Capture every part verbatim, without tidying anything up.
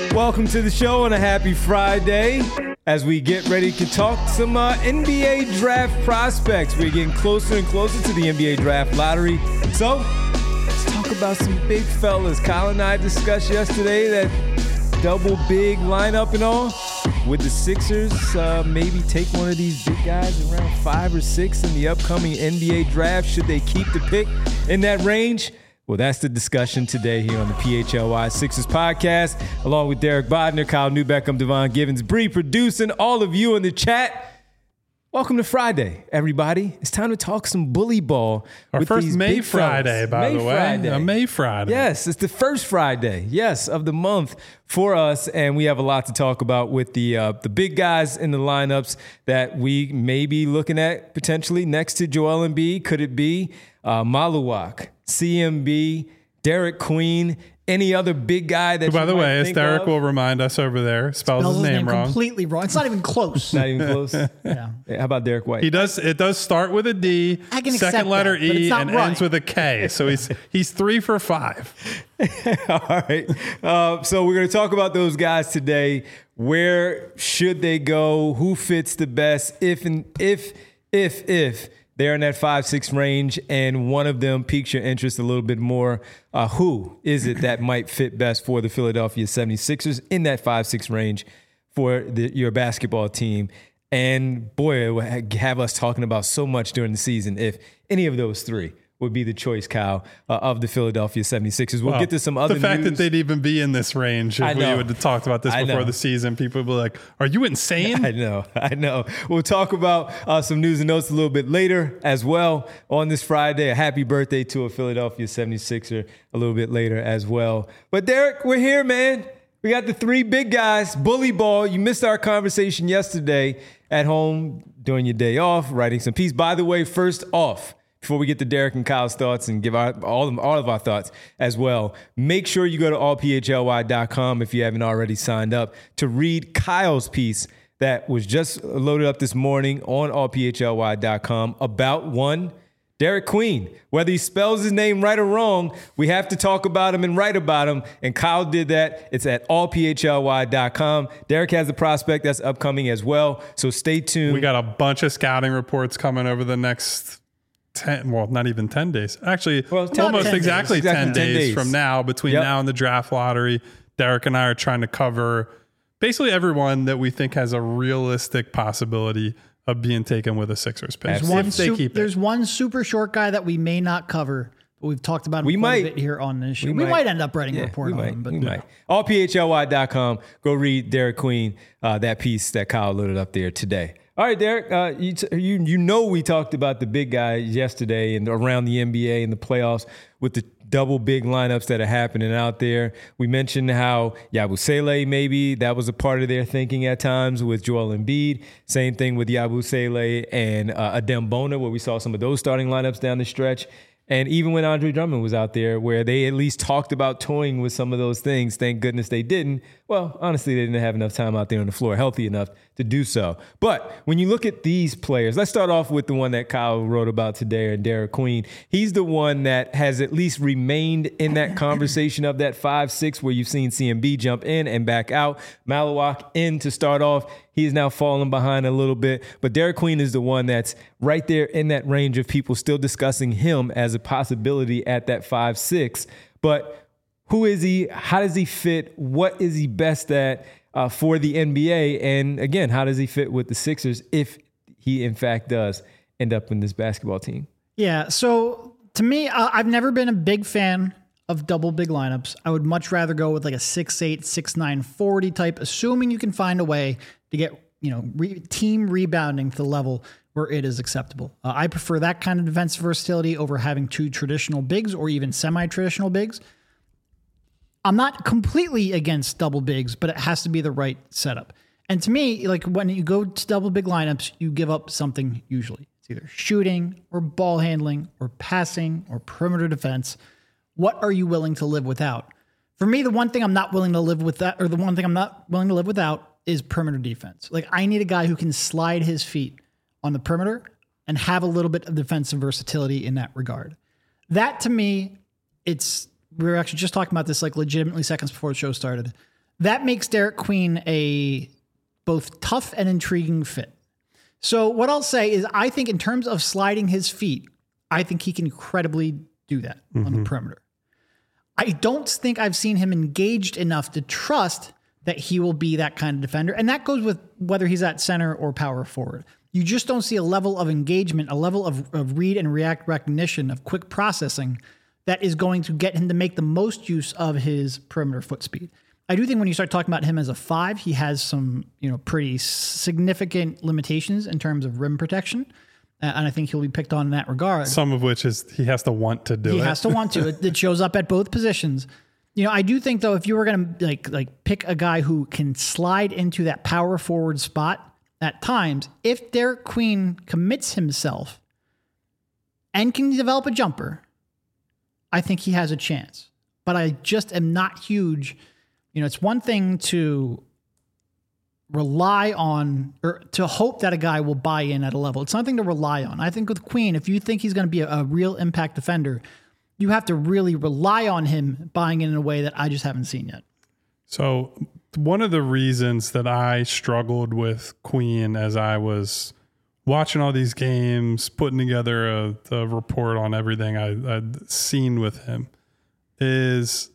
Welcome to the show on a happy Friday as we get ready to talk some uh, N B A draft prospects. We're getting closer and closer to the N B A draft lottery. So let's talk about some big fellas. Kyle and I discussed yesterday that double big lineup and all. Would the Sixers uh, maybe take one of these big guys around five or six in the upcoming N B A draft? Should they keep the pick in that range? Well, that's the discussion today here on the P H L Y Sixers podcast, along with Derek Bodner, Kyle Newbeck, I'm Devon Givens, Bree producing, all of you in the chat. Welcome to Friday, everybody. It's time to talk some bully ball. Our with first these May big Friday, fellas. by May the way. Friday. A May Friday. Yes, it's the first Friday, yes, of the month for us, and we have a lot to talk about with the uh, the big guys in the lineups that we may be looking at potentially next to Joel Embiid. Could it be uh, Maluak, C M B, Derek Queen, any other big guy that Who, by you the might way, as think Derek of? will remind us over there, spells, Spells his name, wrong. completely wrong. It's not even close. Not even close. Yeah. How about Derek White? He does. It does start with a D, I can second accept letter that, but E, it's not and right. ends with a K. So he's he's three for five. All right. Uh, so we're going to talk about those guys today. Where should they go? Who fits the best? If and if if if they're in that five six range, and one of them piques your interest a little bit more, uh, who is it that might fit best for the Philadelphia seventy-sixers in that five six range for the, your basketball team? And boy, it would have us talking about so much during the season if any of those three would be the choice, Kyle, uh, of the Philadelphia seventy-sixers. We'll Well, get to some other The fact news. that they'd even be in this range, I if we know. would have talked about this I before know. the season, people would be like, "Are you insane?" I know, I know. We'll talk about uh, some news and notes a little bit later as well on this Friday. A happy birthday to a Philadelphia seventy-sixer a little bit later as well. But Derek, we're here, man. We got the three big guys, bully ball. You missed our conversation yesterday at home during your day off, writing some piece. By the way, first off, before we get to Derek and Kyle's thoughts and give our, all, of, all of our thoughts as well, make sure you go to all p h l y dot com if you haven't already signed up to read Kyle's piece that was just loaded up this morning on all p h l y dot com about one, Derek Queen. Whether he spells his name right or wrong, we have to talk about him and write about him, and Kyle did that. It's at all p h l y dot com. Derek has a prospect that's upcoming as well, so stay tuned. We got a bunch of scouting reports coming over the next ten, well, not even ten days. Actually, Well, ten almost days. exactly, Exactly ten, ten days, days. from now, between Yep. now and the draft lottery. Derek and I are trying to cover basically everyone that we think has a realistic possibility of being taken with a Sixers pick. There's If One they su- keep there's it. one super short guy that we may not cover, but we've talked about him We quite might. a bit here on this show. We We, might. might. end up writing Yeah, a report we on might, him, but we might. all p h l y dot com. Go read Derek Queen, uh, that piece that Kyle loaded up there today. All right, Derek, uh, you, t- you you know we talked about the big guys yesterday and around the N B A and the playoffs with the double big lineups that are happening out there. We mentioned how Yabusele, maybe that was a part of their thinking at times with Joel Embiid. Same thing with Yabusele and uh, Adem Bona, where we saw some of those starting lineups down the stretch. And even when Andre Drummond was out there, where they at least talked about toying with some of those things, thank goodness they didn't. Well, honestly, they didn't have enough time out there on the floor, healthy enough to do so. But when you look at these players, let's start off with the one that Kyle wrote about today, and Derek Queen. He's the one that has at least remained in that conversation of that five six, where you've seen C M B jump in and back out. Maluak in to start off. He's now falling behind a little bit. But Derek Queen is the one that's right there in that range of people still discussing him as a possibility at that five six. But who is he? How does he fit? What is he best at uh, for the N B A? And again, how does he fit with the Sixers if he, in fact, does end up in this basketball team? yeah. So to me, uh, I've never been a big fan of double big lineups. I would much rather go with like a six eight, six nine forty type, assuming you can find a way to get, you know, re- team rebounding to the level where it is acceptable. Uh, I prefer that kind of defensive versatility over having two traditional bigs or even semi-traditional bigs. I'm not completely against double bigs, but it has to be the right setup. And to me, like when you go to double big lineups, you give up something usually. It's either shooting or ball handling or passing or perimeter defense. What are you willing to live without? For me, the one thing I'm not willing to live with that, or the one thing I'm not willing to live without is perimeter defense. Like I need a guy who can slide his feet on the perimeter and have a little bit of defensive versatility in that regard. That to me, it's, we were actually just talking about this like legitimately seconds before the show started. that makes Derek Queen a both tough and intriguing fit. So what I'll say is I think in terms of sliding his feet, I think he can incredibly do that mm-hmm. on the perimeter. I don't think I've seen him engaged enough to trust that he will be that kind of defender. And that goes with whether he's at center or power forward. You just don't see a level of engagement, a level of, of read and react recognition, of quick processing that is going to get him to make the most use of his perimeter foot speed. I do think when you start talking about him as a five, he has some, you know, pretty significant limitations in terms of rim protection. Uh, and I think he'll be picked on in that regard. Some of which is he has to want to do he it. He has to want to. It, it shows up at both positions. You know, I do think, though, if you were going to like like pick a guy who can slide into that power forward spot at times, if Derek Queen commits himself and can develop a jumper, I think he has a chance. But I just am not huge. You know, it's one thing to rely on or to hope that a guy will buy in at a level. It's something to rely on. I think with Queen, if you think he's going to be a, a real impact defender, you have to really rely on him buying in in a way that I just haven't seen yet. So one of the reasons that I struggled with Queen as I was watching all these games, putting together a, a report on everything I, I'd seen with him, is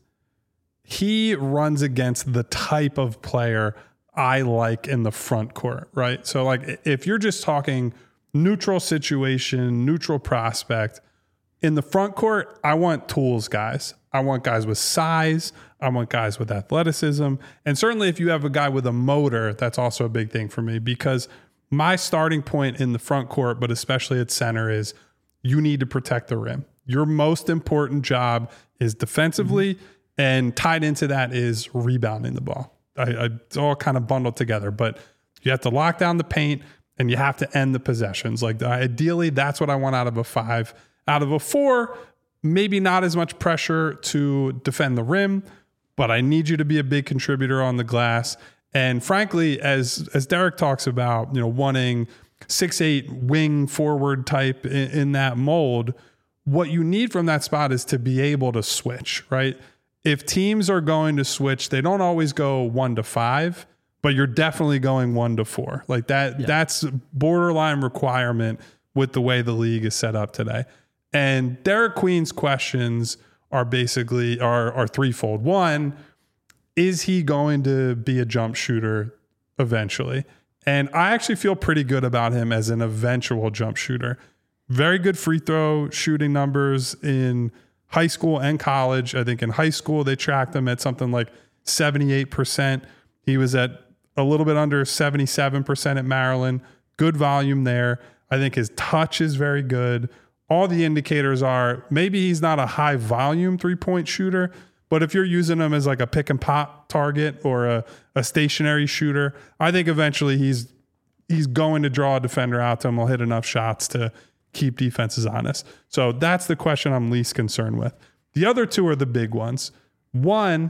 he runs against the type of player I like in the front court, right? So like if you're just talking neutral situation, neutral prospect, in the front court, I want tools guys. I want guys with size. I want guys with athleticism. And certainly if you have a guy with a motor, that's also a big thing for me, because my starting point in the front court, but especially at center, is you need to protect the rim. Your most important job is defensively, mm-hmm. and tied into that is rebounding the ball. I, I, it's all kind of bundled together, but you have to lock down the paint and you have to end the possessions. Like ideally, that's what I want out of a five. Out of a four, maybe not as much pressure to defend the rim, but I need you to be a big contributor on the glass. And frankly, as as Derek talks about, you know, wanting six eight wing forward type in, in that mold, what you need from that spot is to be able to switch, right? If teams are going to switch, they don't always go one to five, but you're definitely going one to four. Like that, yeah. That's borderline requirement with the way the league is set up today. And Derek Queen's questions are basically are, are threefold. One, is he going to be a jump shooter eventually? And I actually feel pretty good about him as an eventual jump shooter. Very good free throw shooting numbers in high school and college. I think in high school, they tracked him at something like seventy-eight percent. He was at a little bit under seventy-seven percent at Maryland. Good volume there. I think his touch is very good. All the indicators are maybe he's not a high volume three-point shooter, but if you're using him as like a pick and pop target or a, a stationary shooter, I think eventually he's he's going to draw a defender out to him. He'll hit enough shots to keep defenses honest. So that's the question I'm least concerned with. The other two are the big ones. One,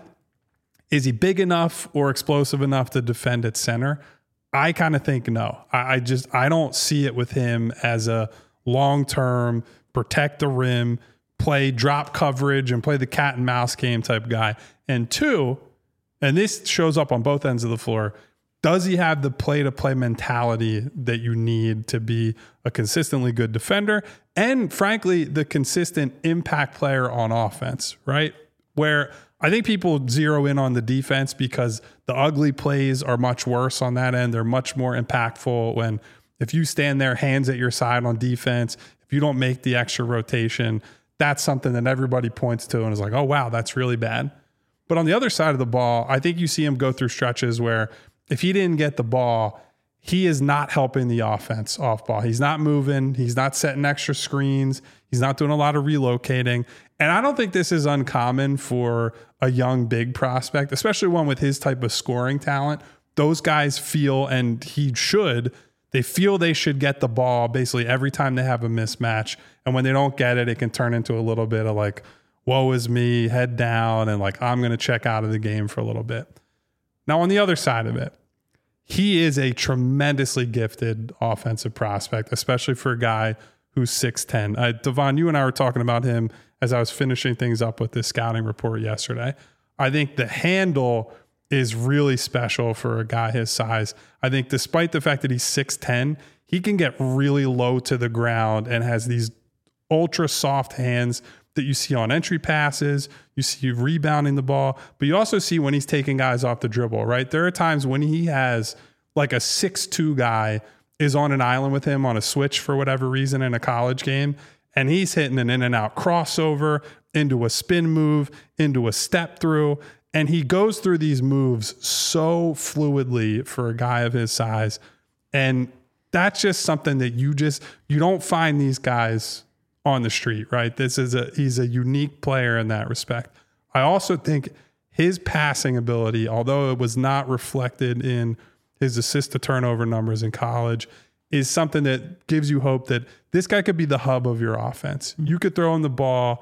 is he big enough or explosive enough to defend at center? I kind of think no. I, I just I don't see it with him as a long-term, protect the rim, play drop coverage, and play the cat and mouse game type guy. And two, and this shows up on both ends of the floor, does he have the play-to-play mentality that you need to be a consistently good defender and, frankly, the consistent impact player on offense, right? Where I think people zero in on the defense because the ugly plays are much worse on that end. They're much more impactful when if you stand there, hands at your side on defense, if you don't make the extra rotation, that's something that everybody points to and is like, oh, wow, that's really bad. But on the other side of the ball, I think you see him go through stretches where if he didn't get the ball, he is not helping the offense off ball. He's not moving. He's not setting extra screens. He's not doing a lot of relocating. And I don't think this is uncommon for a young, big prospect, especially one with his type of scoring talent. Those guys feel, and he should, they feel they should get the ball basically every time they have a mismatch. And when they don't get it, it can turn into a little bit of like, woe is me, head down, and like, I'm going to check out of the game for a little bit. Now, on the other side of it, he is a tremendously gifted offensive prospect, especially for a guy who's six ten. Uh, Devon, you and I were talking about him as I was finishing things up with this scouting report yesterday. I think the handle is really special for a guy his size. I think despite the fact that he's six ten, he can get really low to the ground and has these ultra soft hands that you see on entry passes. You see rebounding the ball, but you also see when he's taking guys off the dribble, right? There are times when he has like a six two guy is on an island with him on a switch for whatever reason in a college game, and he's hitting an in and out crossover into a spin move, into a step through, and he goes through these moves so fluidly for a guy of his size. And that's just something that you just, you don't find these guys on the street, right? This is a, he's a unique player in that respect. I also think his passing ability, although it was not reflected in his assist to turnover numbers in college, is something that gives you hope that this guy could be the hub of your offense. You could throw him the ball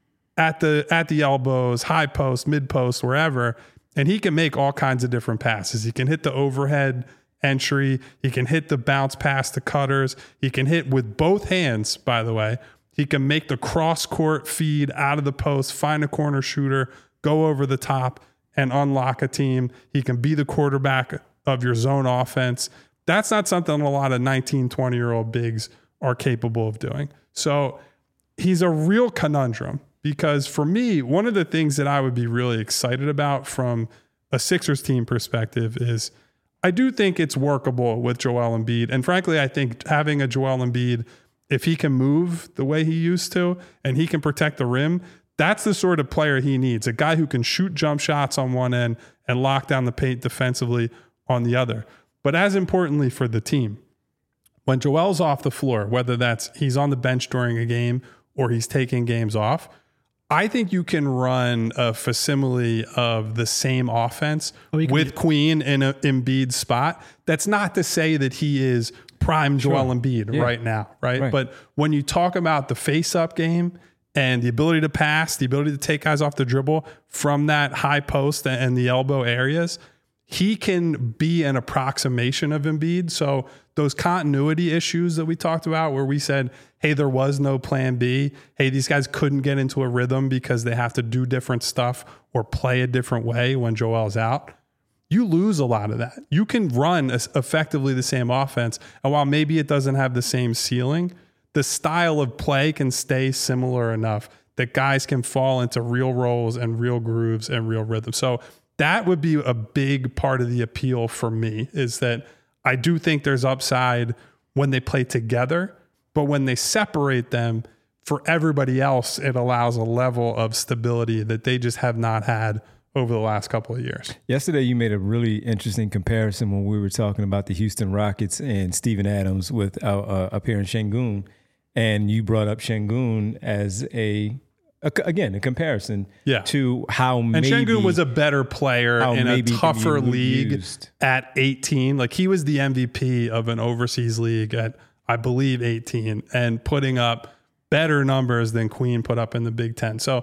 at the, at the elbows, high post, mid post, wherever, and he can make all kinds of different passes. He can hit the overhead entry. He can hit the bounce pass to cutters. He can hit with both hands, by the way. He can make the cross-court feed out of the post, find a corner shooter, go over the top, and unlock a team. He can be the quarterback of your zone offense. That's not something a lot of nineteen, twenty-year-old bigs are capable of doing. So he's a real conundrum because for me, one of the things that I would be really excited about from a Sixers team perspective is I do think it's workable with Joel Embiid. And frankly, I think having a Joel Embiid, if he can move the way he used to and he can protect the rim, that's the sort of player he needs. A guy who can shoot jump shots on one end and lock down the paint defensively on the other. But as importantly for the team, when Joel's off the floor, whether that's he's on the bench during a game or he's taking games off, I think you can run a facsimile of the same offense oh, with be- Queen in an Embiid spot. That's not to say that he is prime Joel sure. Embiid yeah. right now, right? right? But when you talk about the face-up game and the ability to pass, the ability to take guys off the dribble from that high post and the elbow areas, he can be an approximation of Embiid. So those continuity issues that we talked about where we said, hey, there was no plan B. Hey, these guys couldn't get into a rhythm because they have to do different stuff or play a different way when Joel's out. You lose a lot of that. You can run effectively the same offense. And while maybe it doesn't have the same ceiling, the style of play can stay similar enough that guys can fall into real roles and real grooves and real rhythm. So that would be a big part of the appeal for me, is that I do think there's upside when they play together, but when they separate them, for everybody else, it allows a level of stability that they just have not had over the last couple of years. Yesterday, you made a really interesting comparison when we were talking about the Houston Rockets and Steven Adams with uh, uh, up here in Şengün, and you brought up Şengün as a, a again a comparison yeah. to how and maybe Şengün was a better player in a tougher league used. At eighteen. Like he was the M V P of an overseas league at I believe eighteen and putting up better numbers than Queen put up in the Big Ten. So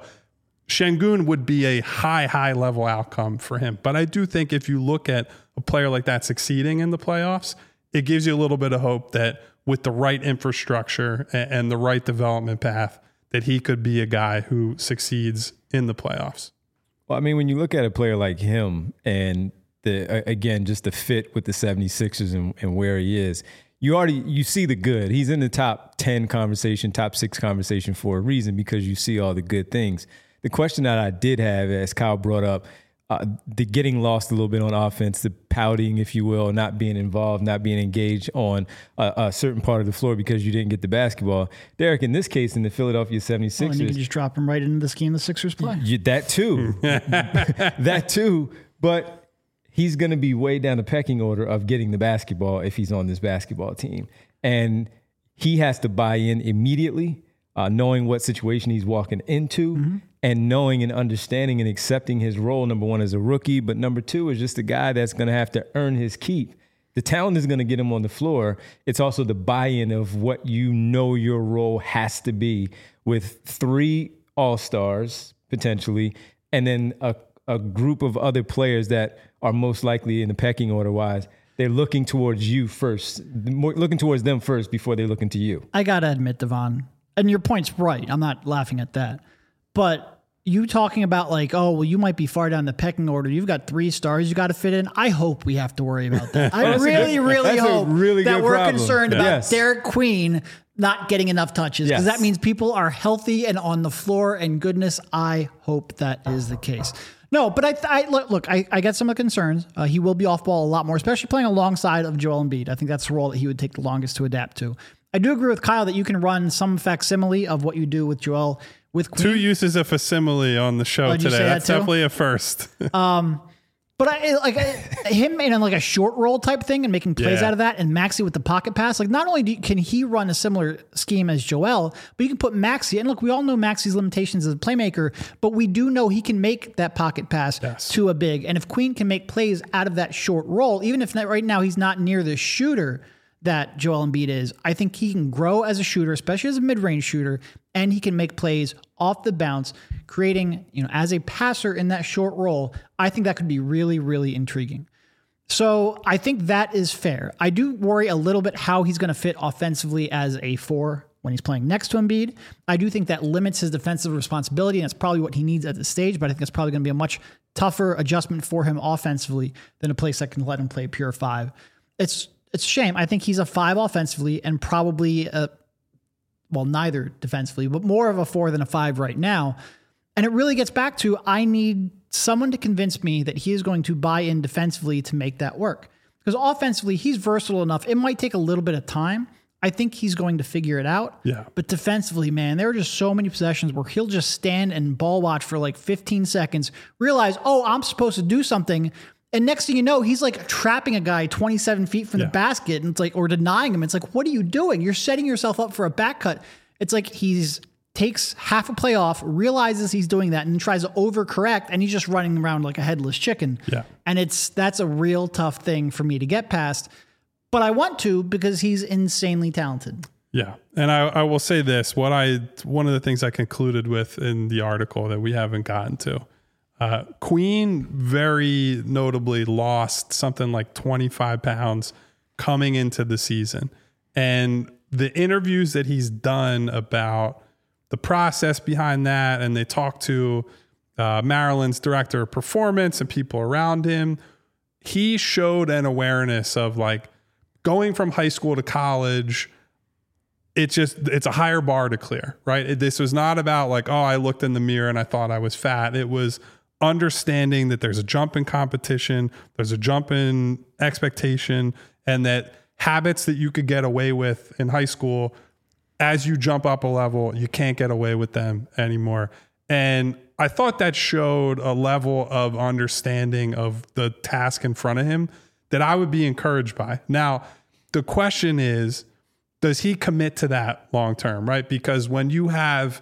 Şengün would be a high, high level outcome for him. But I do think if you look at a player like that succeeding in the playoffs, it gives you a little bit of hope that with the right infrastructure and the right development path, that he could be a guy who succeeds in the playoffs. Well, I mean, when you look at a player like him and the again, just the fit with the seventy-sixers and, and where he is, you already you see the good. He's in the top ten conversation, top six conversation for a reason, because you see all the good things. The question that I did have, as Kyle brought up, uh, the getting lost a little bit on offense, the pouting, if you will, not being involved, not being engaged on a, a certain part of the floor because you didn't get the basketball. Derek, in this case, in the Philadelphia seventy-sixers. Well, and you can just drop him right into the scheme the Sixers play. You, that too. that too. But he's going to be way down the pecking order of getting the basketball if he's on this basketball team. And he has to buy in immediately, uh, knowing what situation he's walking into. Mm-hmm. And knowing and understanding and accepting his role, number one, as a rookie, but number two is just a guy that's going to have to earn his keep. The talent is going to get him on the floor. It's also the buy-in of what you know your role has to be, with three all-stars, potentially, and then a, a group of other players that are most likely in the pecking order-wise. They're looking towards you first, looking towards them first before they're looking to you. I got to admit, Devon, and your point's right. I'm not laughing at that. But you talking about like, oh, well, you might be far down the pecking order. You've got three stars you got to fit in. I hope we have to worry about that. I really, good, really hope really that we're problem. concerned yeah. about yes. Derek Queen not getting enough touches because yes. that means people are healthy and on the floor. And goodness, I hope that is the case. No, but I, I look, look I, I get some of the concerns. Uh, he will be off ball a lot more, especially playing alongside of Joel Embiid. I think that's the role that he would take the longest to adapt to. I do agree with Kyle that you can run some facsimile of what you do with Joel with Queen. Two uses of facsimile on the show Oh, did you today. say that That's too? definitely a first. But I like I, him in like a short roll type thing and making plays Yeah. out of that, and Maxey with the pocket pass. Like not only do you, can he run a similar scheme as Joel, but you can put Maxey. And look, we all know Maxey's limitations as a playmaker, but we do know he can make that pocket pass Yes. to a big. And if Queen can make plays out of that short roll, even if not, right now he's not near the shooter that Joel Embiid is, I think he can grow as a shooter, especially as a mid-range shooter, and he can make plays off the bounce, creating, you know, as a passer in that short roll. I think that could be really, really intriguing. So I think that is fair. I do worry a little bit how he's going to fit offensively as a four when he's playing next to Embiid. I do think that limits his defensive responsibility, and that's probably what he needs at this stage, but I think that's probably going to be a much tougher adjustment for him offensively than a place that can let him play pure five. It's It's a shame. I think he's a five offensively and probably a, well, neither defensively, but more of a four than a five right now. And it really gets back to, I need someone to convince me that he is going to buy in defensively to make that work. Because offensively, he's versatile enough. It might take a little bit of time. I think he's going to figure it out. Yeah. But defensively, man, there are just so many possessions where he'll just stand and ball watch for like fifteen seconds, realize, oh, I'm supposed to do something. And next thing you know, he's like trapping a guy twenty-seven feet from Yeah. the basket, and it's like, or denying him. It's like, what are you doing? You're setting yourself up for a back cut. It's like he's takes half a play off, realizes he's doing that, and tries to overcorrect, and he's just running around like a headless chicken. Yeah. And it's that's a real tough thing for me to get past. But I want to because he's insanely talented. Yeah. And I, I will say this, what I, one of the things I concluded with in the article that we haven't gotten to, uh, Queen very notably lost something like twenty-five pounds coming into the season. And the interviews that he's done about the process behind that, and they talked to uh, Maryland's director of performance and people around him, he showed an awareness of like going from high school to college. It's just, it's a higher bar to clear, right? It, this was not about like, oh, I looked in the mirror and I thought I was fat. It was understanding that there's a jump in competition, there's a jump in expectation, and that habits that you could get away with in high school, as you jump up a level, you can't get away with them anymore. And I thought that showed a level of understanding of the task in front of him that I would be encouraged by. Now, the question is, does he commit to that long term, right? Because when you have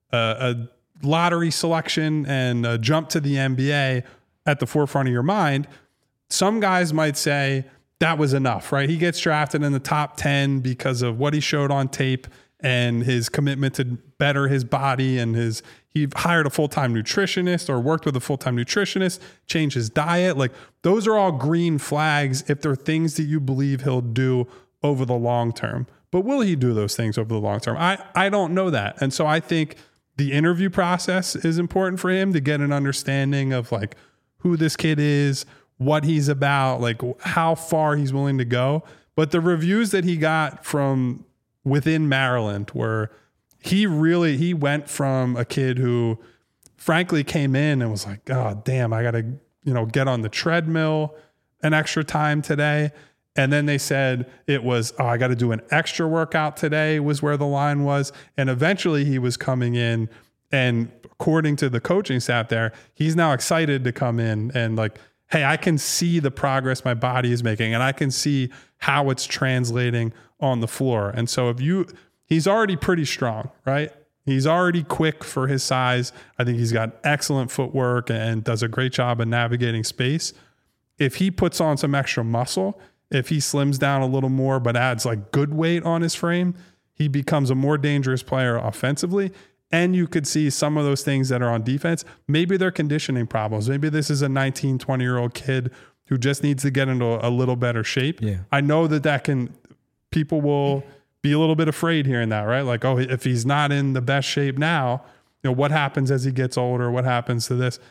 a, a lottery selection and a jump to the N B A at the forefront of your mind, some guys might say that was enough, right? He gets drafted in the top ten because of what he showed on tape and his commitment to better his body, and his he hired a full-time nutritionist or worked with a full-time nutritionist, changed his diet. Like those are all green flags if they're things that you believe he'll do over the long term. But will he do those things over the long term? I, I don't know that. And so I think the interview process is important for him to get an understanding of like who this kid is, what he's about, like how far he's willing to go. But the reviews that he got from within Maryland were he really, he went from a kid who frankly came in and was like, oh, damn, I got to, you know, get on the treadmill an extra time today. And then they said it was, oh, I got to do an extra workout today was where the line was. And eventually he was coming in, and according to the coaching staff there, he's now excited to come in and like, hey, I can see the progress my body is making, and I can see how it's translating on the floor. And so if you, he's already pretty strong, right? He's already quick for his size. I think he's got excellent footwork and does a great job of navigating space. If he puts on some extra muscle, if he slims down a little more, but adds like good weight on his frame, he becomes a more dangerous player offensively. And you could see some of those things that are on defense. Maybe they're conditioning problems. Maybe this is a nineteen, twenty year old kid who just needs to get into a little better shape. Yeah. I know that that can, people will be a little bit afraid hearing that, right? Like, oh, if he's not in the best shape now, you know, what happens as he gets older? What happens to this?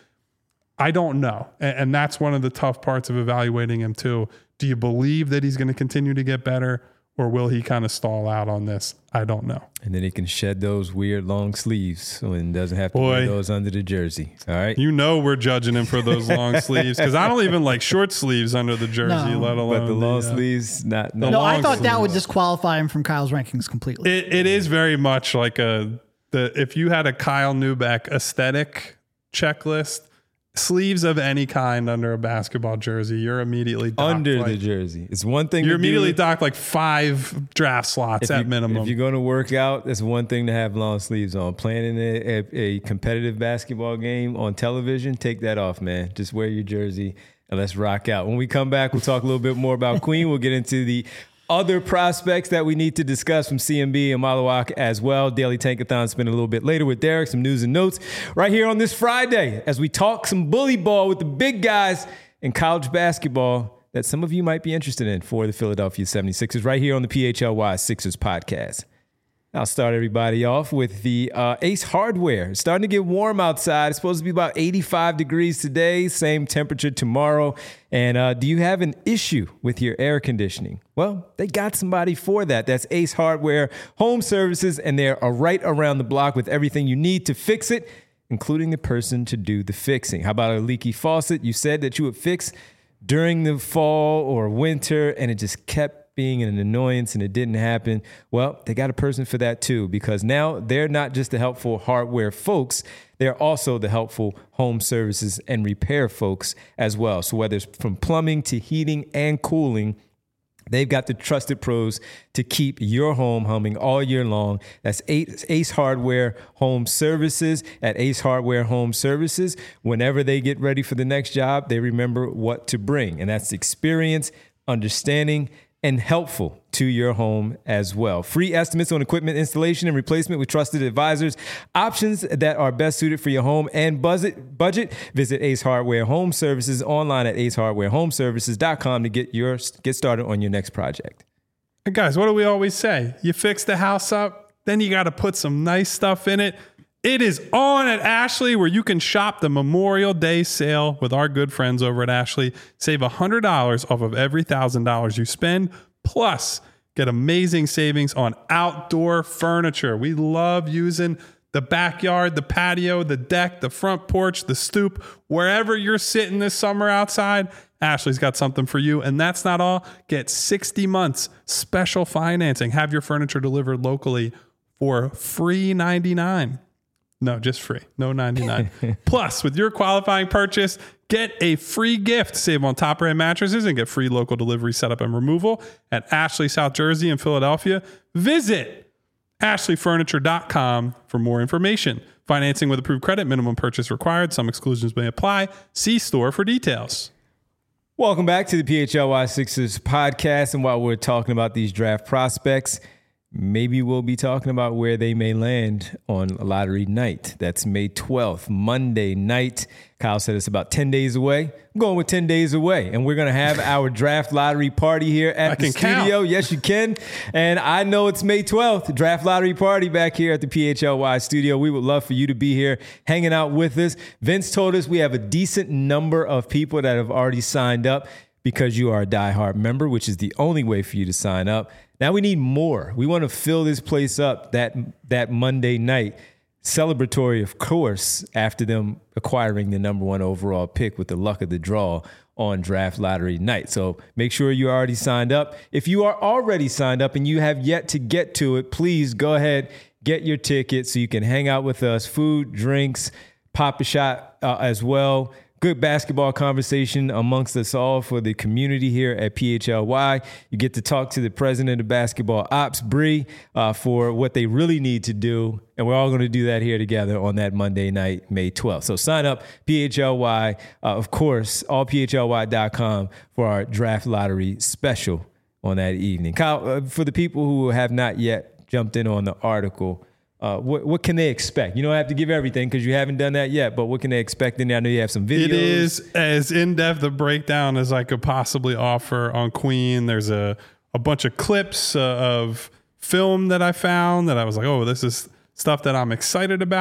I don't know. And, and that's one of the tough parts of evaluating him too. Do you believe that he's going to continue to get better, or will he kind of stall out on this? I don't know. And then he can shed those weird long sleeves so he doesn't have to Boy, wear those under the jersey. All right. You know we're judging him for those long sleeves, because I don't even like short sleeves under the jersey, No. let alone But the long uh, sleeves, not, not No, long I thought that sleeves. would disqualify him from Kyle's rankings completely. It, it is very much like a the if you had a Kyle Neubeck aesthetic checklist, sleeves of any kind under a basketball jersey, you're immediately docked under like, the jersey. It's one thing You're to immediately do. docked like five draft slots If at you- minimum. If you're going to work out, it's one thing to have long sleeves on. Playing in a, a, a competitive basketball game on television, take that off, man. Just wear your jersey and let's rock out. When we come back, we'll talk a little bit more about Queen. We'll get into the other prospects that we need to discuss from C M B and Malawak as well. Daily Tankathon spin a little bit later with Derek, some news and notes right here on this Friday as we talk some bully ball with the big guys in college basketball that some of you might be interested in for the Philadelphia seventy-sixers right here on the P H L Y Sixers podcast. I'll start everybody off with the uh, Ace Hardware. It's starting to get warm outside. It's supposed to be about eighty-five degrees today, same temperature tomorrow. And uh, do you have an issue with your air conditioning? Well, they got somebody for that. That's Ace Hardware Home Services, and they're right around the block with everything you need to fix it, including the person to do the fixing. How about a leaky faucet? You said that you would fix during the fall or winter, and it just kept being an annoyance and it didn't happen. Well, they got a person for that too, because now they're not just the helpful hardware folks, they're also the helpful home services and repair folks as well. So whether it's from plumbing to heating and cooling, they've got the trusted pros to keep your home humming all year long. That's Ace Hardware Home Services. At Ace Hardware Home Services, whenever they get ready for the next job, they remember what to bring. And that's experience, understanding, and helpful to your home as well. Free estimates on equipment installation and replacement with trusted advisors. Options that are best suited for your home and budget. Budget. Visit Ace Hardware Home Services online at ace hardware home services dot com to get your get started on your next project. Hey guys, what do we always say? You fix the house up, then you got to put some nice stuff in it. It is on at Ashley, where you can shop the Memorial Day sale with our good friends over at Ashley. Save one hundred dollars off of every one thousand dollars you spend, plus get amazing savings on outdoor furniture. We love using the backyard, the patio, the deck, the front porch, the stoop, wherever you're sitting this summer outside. Ashley's got something for you. And that's not all. Get sixty months special financing. Have your furniture delivered locally for free ninety-nine. No, just free. No ninety-nine. Plus, with your qualifying purchase, get a free gift. Save on top brand mattresses and get free local delivery setup and removal at Ashley, South Jersey and Philadelphia. Visit ashley furniture dot com for more information. Financing with approved credit, minimum purchase required. Some exclusions may apply. See store for details. Welcome back to the P H L Y Sixers podcast. And while we're talking about these draft prospects, maybe we'll be talking about where they may land on lottery night. That's May twelfth, Monday night. Kyle said it's about ten days away. I'm going with ten days away. And we're going to have our draft lottery party here at I the can studio. count. Yes, you can. And I know it's May twelfth, draft lottery party back here at the P H L Y studio. We would love for you to be here hanging out with us. Vince told us we have a decent number of people that have already signed up because you are a diehard member, which is the only way for you to sign up. Now we need more. We want to fill this place up that that Monday night. Celebratory, of course, after them acquiring the number one overall pick with the luck of the draw on draft lottery night. So make sure you're already signed up. If you are already signed up and you have yet to get to it, please go ahead, get your ticket so you can hang out with us. Food, drinks, pop a shot uh, as well. Good basketball conversation amongst us all for the community here at P H L Y. You get to talk to the president of basketball ops, Bree, uh, for what they really need to do. And we're all going to do that here together on that Monday night, May twelfth. So sign up, P H L Y, uh, of course, all P H L Y dot com for our draft lottery special on that evening. Kyle, uh, for the people who have not yet jumped in on the article, Uh, what, what can they expect? You don't have to give everything because you haven't done that yet, but what can they expect in there? I know you have some videos. It is as in-depth a breakdown as I could possibly offer on Queen. There's a, a bunch of clips uh, of film that I found that I was like, oh, this is stuff that I'm excited about.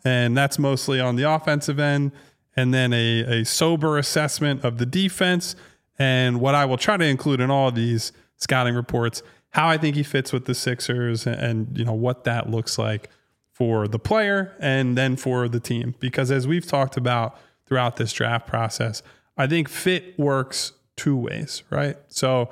and that's mostly on the offensive end, and then a, a sober assessment of the defense. And what I will try to include in all of these scouting reports, how I think he fits with the Sixers, and, and you know what that looks like for the player and then for the team. Because as we've talked about throughout this draft process, I think fit works two ways, right? So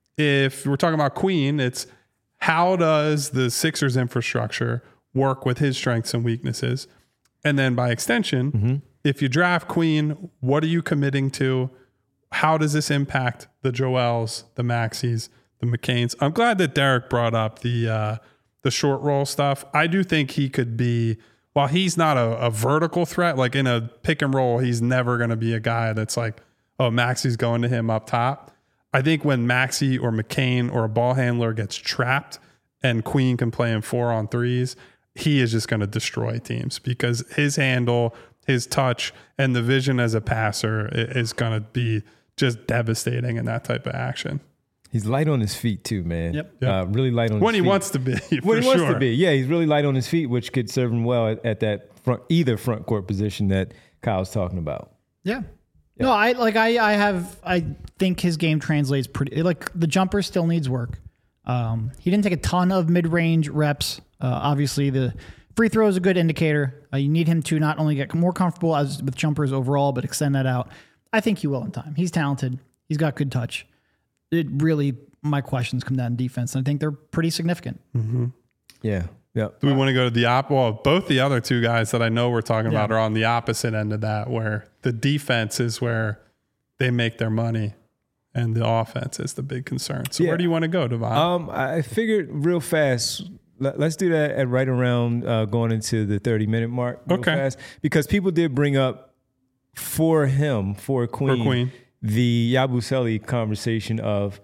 if we're talking about Queen, it's how does the Sixers infrastructure work with his strengths and weaknesses? And then by extension, mm-hmm. if you draft Queen, what are you committing to? How does this impact the Joels, the Maxis, the McCains? I'm glad that Derek brought up the uh, the short roll stuff. I do think he could be, while he's not a, a vertical threat, like in a pick and roll, he's never going to be a guy that's like, oh, Maxi's going to him up top. I think when Maxi or McCain or a ball handler gets trapped and Queen can play in four on threes, he is just going to destroy teams because his handle, his touch, and the vision as a passer is going to be just devastating in that type of action. He's light on his feet too, man. Yep. yep. Uh, really light on when his feet. When he wants to be, for When he sure. wants to be. Yeah, he's really light on his feet, which could serve him well at, at that front, either front court position that Kyle's talking about. Yeah. Yeah. No, I like I I have I think his game translates pretty like the jumper still needs work. Um, he didn't take a ton of mid-range reps. Uh, obviously, the free throw is a good indicator. Uh, you need him to not only get more comfortable as with jumpers overall, but extend that out. I think he will in time. He's talented. He's got good touch. It really, my questions come down to defense, and I think they're pretty significant. Mm-hmm. Yeah. Yeah. Do we want to go to the op? Well, both the other two guys that I know we're talking yeah. about are on the opposite end of that, where the defense is where they make their money, and the offense is the big concern. So yeah. where do you want to go, Devon? Um, I figured real fast. Let, let's do that at right around uh, going into the thirty minute mark. Real okay. Fast, because people did bring up for him for Queen, for Queen. the Yabusele conversation of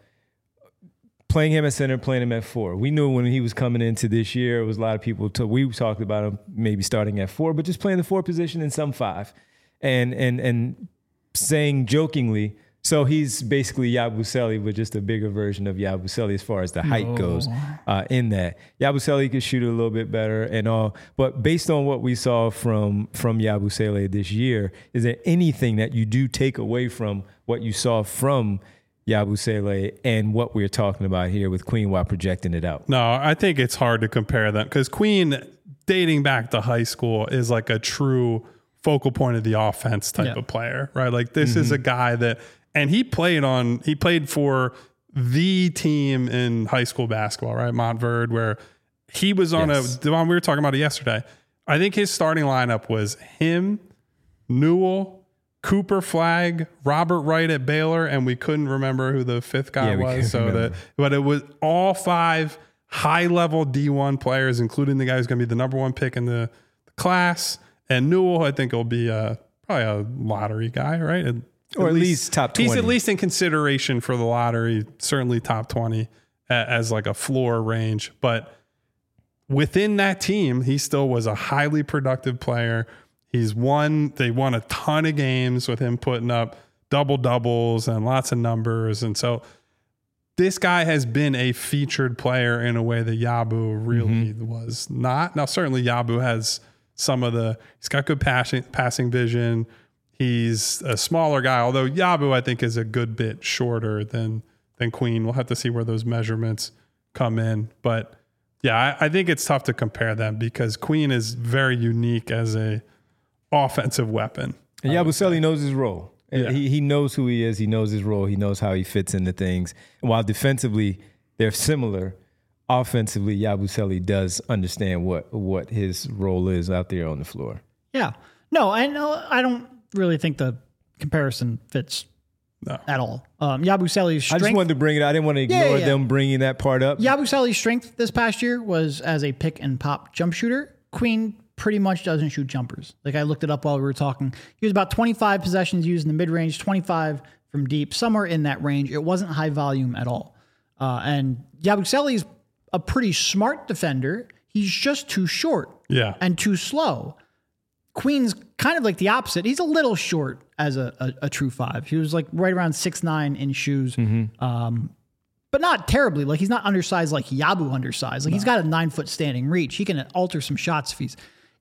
playing him at center, playing him at four. We knew when he was coming into this year, it was a lot of people, to, we talked about him maybe starting at four, but just playing the four position in some five. And and and saying jokingly, so he's basically Yabusele, but just a bigger version of Yabusele as far as the height no. goes uh, in that. Yabusele could shoot it a little bit better and all, but based on what we saw from, from Yabusele this year, is there anything that you do take away from what you saw from Yabusele and what we're talking about here with Queen while projecting it out? No, I think it's hard to compare them because Queen, dating back to high school, is like a true focal point of the offense type yeah. of player, right? Like this Mm-hmm. is a guy that, and he played on, he played for the team in high school basketball, right? Montverde, where he was on yes. a, Devon, we were talking about it yesterday. I think his starting lineup was him, Newell, Cooper Flagg, Robert Wright at Baylor, and we couldn't remember who the fifth guy yeah, was. So that, but it was all five high level D one players, including the guy who's going to be the number one pick in the, the class. And Newell, I think, will be a, probably a lottery guy, right? At, or at least, least top twenty. He's at least in consideration for the lottery, certainly top twenty as like a floor range. But within that team, he still was a highly productive player. He's won, they won a ton of games with him putting up double doubles and lots of numbers. And so this guy has been a featured player in a way that Yabu really mm-hmm. was not. Now, certainly Yabu has some of the, he's got good passing, passing vision. He's a smaller guy, although Yabu, I think, is a good bit shorter than, than Queen. We'll have to see where those measurements come in. But yeah, I, I think it's tough to compare them because Queen is very unique as a offensive weapon. And Yabusele knows his role. Yeah. He he knows who he is. He knows his role. He knows how he fits into things. And while defensively they're similar, offensively Yabusele does understand what what his role is out there on the floor. Yeah. No, I know. I don't really think the comparison fits no. at all. Um, Yabusele's strength. I just wanted to bring it. I didn't want to ignore yeah, yeah, yeah. them bringing that part up. Yabusele's strength this past year was as a pick and pop jump shooter. Queen pretty much doesn't shoot jumpers. Like I looked it up while we were talking. He was about twenty-five possessions used in the mid-range, twenty-five from deep, somewhere in that range. It wasn't high volume at all. Uh, and Yabusele's a pretty smart defender. He's just too short yeah. and too slow. Queen's kind of like the opposite. He's a little short as a, a, a true five. He was like right around six nine in shoes. Mm-hmm. Um, but not terribly. Like he's not undersized like Yabu undersized. Like no. he's got a nine foot standing reach. He can alter some shots if he's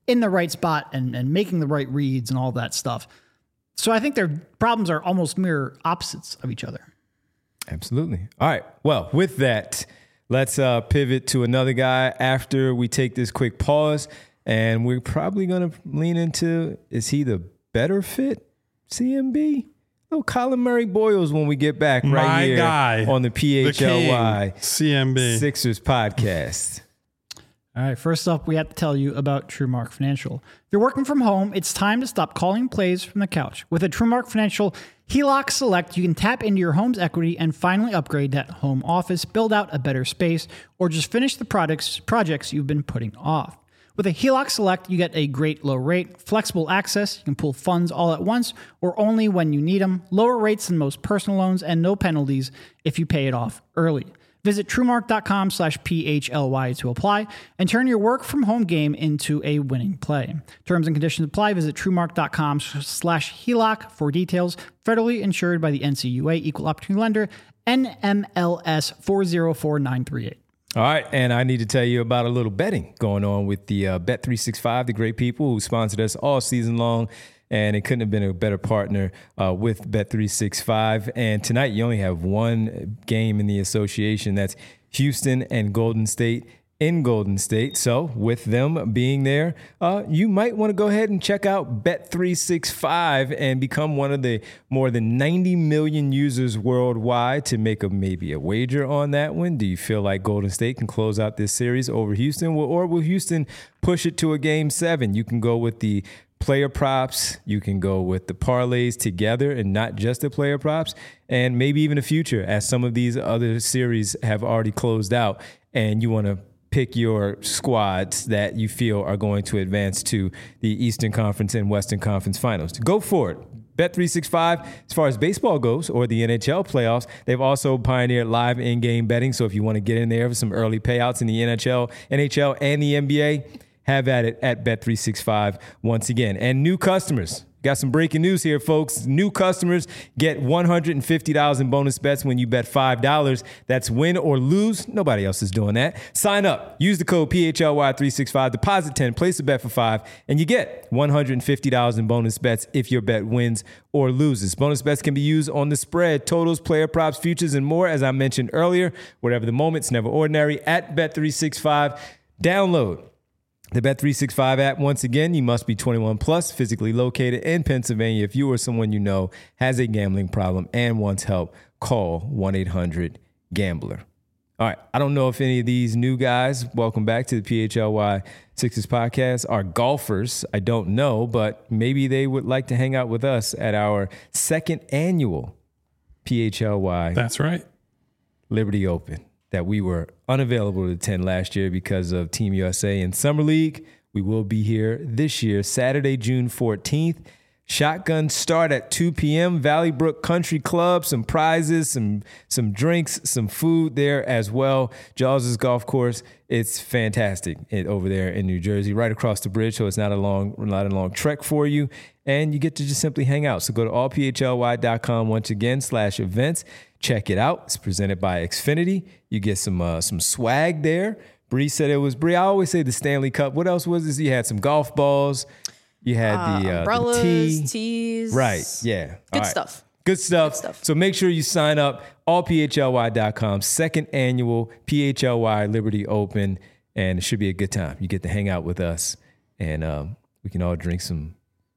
in the right spot and, and making the right reads and all that stuff. So I think their problems are almost mirror opposites of each other. Absolutely. All right. Well, with that, let's uh, pivot to another guy after we take this quick pause. And we're probably going to lean into, is he the better fit C M B? Little Colin Murray Boyles when we get back right My here guy, on the P H L Y the King, C M B Sixers podcast. All right, first up, we have to tell you about TrueMark Financial. If you're working from home, it's time to stop calling plays from the couch. With a TrueMark Financial H E L O C Select, you can tap into your home's equity and finally upgrade that home office, build out a better space, or just finish the products, projects you've been putting off. With a H E L O C Select, you get a great low rate, flexible access, you can pull funds all at once or only when you need them, lower rates than most personal loans, and no penalties if you pay it off early. Visit TrueMark.com slash P-H-L-Y to apply and turn your work from home game into a winning play. Terms and conditions apply. Visit TrueMark.com slash HELOC for details. Federally insured by the N C U A, Equal Opportunity Lender, N M L S four zero four nine three eight. All right, and I need to tell you about a little betting going on with the uh, Bet three sixty-five, the great people who sponsored us all season long. And it couldn't have been a better partner uh, with Bet three sixty-five. And tonight you only have one game in the association. That's Houston and Golden State in Golden State. So with them being there, uh, you might want to go ahead and check out Bet three sixty-five and become one of the more than ninety million users worldwide to make a maybe a wager on that one. Do you feel like Golden State can close out this series over Houston? Or will Houston push it to a game seven? You can go with the player props, you can go with the parlays together and not just the player props, and maybe even a future as some of these other series have already closed out and you want to pick your squads that you feel are going to advance to the Eastern Conference and Western Conference finals. Go for it. Bet three sixty-five, as far as baseball goes, or the N H L playoffs, they've also pioneered live in-game betting. So if you want to get in there for some early payouts in the N H L, N H L, and the N B A, have at it at Bet three sixty-five once again. And new customers, got some breaking news here, folks. New customers get one hundred fifty dollars in bonus bets when you bet five dollars. That's win or lose. Nobody else is doing that. Sign up. Use the code P H L Y three sixty-five. Deposit ten. Place a bet for five. And you get one hundred fifty dollars in bonus bets if your bet wins or loses. Bonus bets can be used on the spread, totals, player props, futures, and more. As I mentioned earlier, whatever the moment, it's never ordinary. At Bet three sixty-five, download the Bet three sixty-five app. Once again, you must be twenty-one plus, physically located in Pennsylvania. If you or someone you know has a gambling problem and wants help, call one eight hundred gambler. All right, I don't know if any of these new guys, welcome back to the P H L Y Sixers podcast, are golfers. I don't know, but maybe they would like to hang out with us at our second annual P H L Y. That's right. Liberty Open, that we were unavailable to attend last year because of Team U S A and Summer League. We will be here this year, Saturday, June fourteenth. Shotgun start at two p.m. Valley Brook Country Club. Some prizes, some some drinks, some food there as well. Jaws' golf course. It's fantastic it, over there in New Jersey, right across the bridge. So it's not a long, not a long trek for you. And you get to just simply hang out. So go to all p h l y dot com once again slash events. Check it out. It's presented by Xfinity. You get some uh, some swag there. Bree said it was Bree. I always say the Stanley Cup. What else was this? You had some golf balls. You had uh, the, uh, umbrellas, the tea. tees. Right. Yeah. Good right. stuff. Good stuff. Good stuff. So make sure you sign up. all p h l y dot com. Second annual P H L Y Liberty Open. And it should be a good time. You get to hang out with us. And um, we can all drink some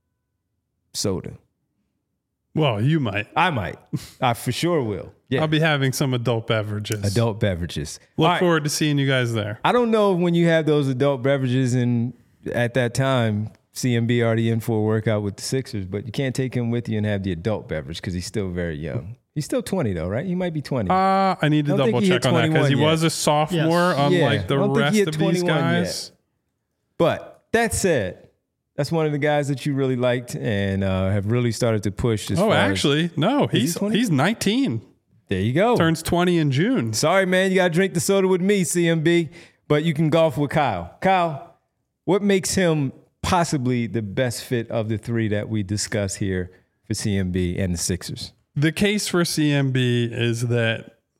soda. Well, you might. I might. I for sure will. Yeah. I'll be having some adult beverages. Adult beverages. Look All forward right. to seeing you guys there. I don't know when you have those adult beverages and at that time, C M B already in for a workout with the Sixers, but you can't take him with you and have the adult beverage because he's still very young. He's still twenty though, right? He might be twenty. Uh, I need to I don't double think he check hit on that because he twenty-one was a sophomore, Yes. unlike Yeah, the I don't think rest he hit of these twenty-one guys. yet. But that said, that's one of the guys that you really liked and uh, have really started to push. As Oh, far actually, no, he he's twenty? he's nineteen. There you go. Turns twenty in June. Sorry, man. You got to drink the soda with me, C M B, but you can golf with Kyle. Kyle, what makes him possibly the best fit of the three that we discuss here for C M B and the Sixers? The case for C M B is that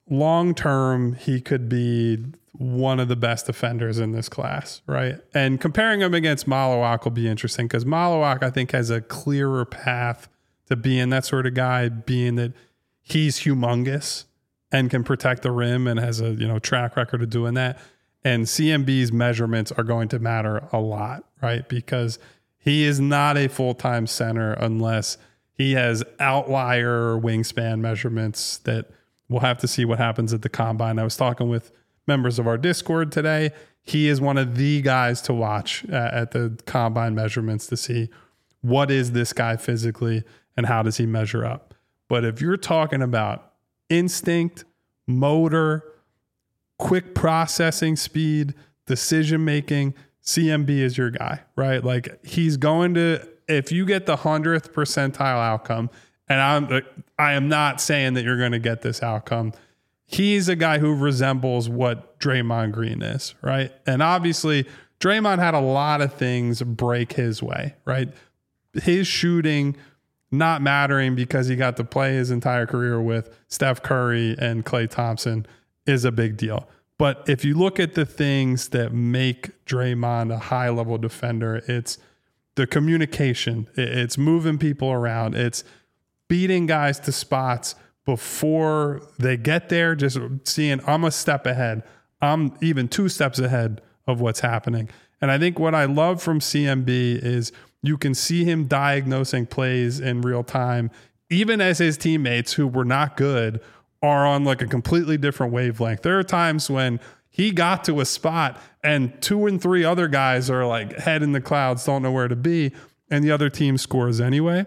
long term, he could be one of the best defenders in this class, right? And comparing him against Malawak will be interesting because Malawak, I think, has a clearer path to being that sort of guy, being that he's humongous and can protect the rim and has a, you know, track record of doing that. And C M B's measurements are going to matter a lot, right? Because he is not a full-time center unless he has outlier wingspan measurements that we'll have to see what happens at the combine. I was talking with members of our Discord today. He is one of the guys to watch uh, at the combine measurements to see what is this guy physically and how does he measure up. But if you're talking about instinct, motor, quick processing speed, decision-making, C M B is your guy, right? Like he's going to, if you get the hundredth percentile outcome, and I'm, I am not saying that you're going to get this outcome. He's a guy who resembles what Draymond Green is, right? And obviously Draymond had a lot of things break his way, right? His shooting not mattering because he got to play his entire career with Steph Curry and Klay Thompson is a big deal. But if you look at the things that make Draymond a high level defender, it's the communication, it's moving people around, it's beating guys to spots before they get there, just seeing I'm a step ahead. I'm even two steps ahead of what's happening. And I think what I love from C M B is you can see him diagnosing plays in real time, even as his teammates who were not good are on like a completely different wavelength. There are times when he got to a spot and two and three other guys are like head in the clouds, don't know where to be, and the other team scores anyway.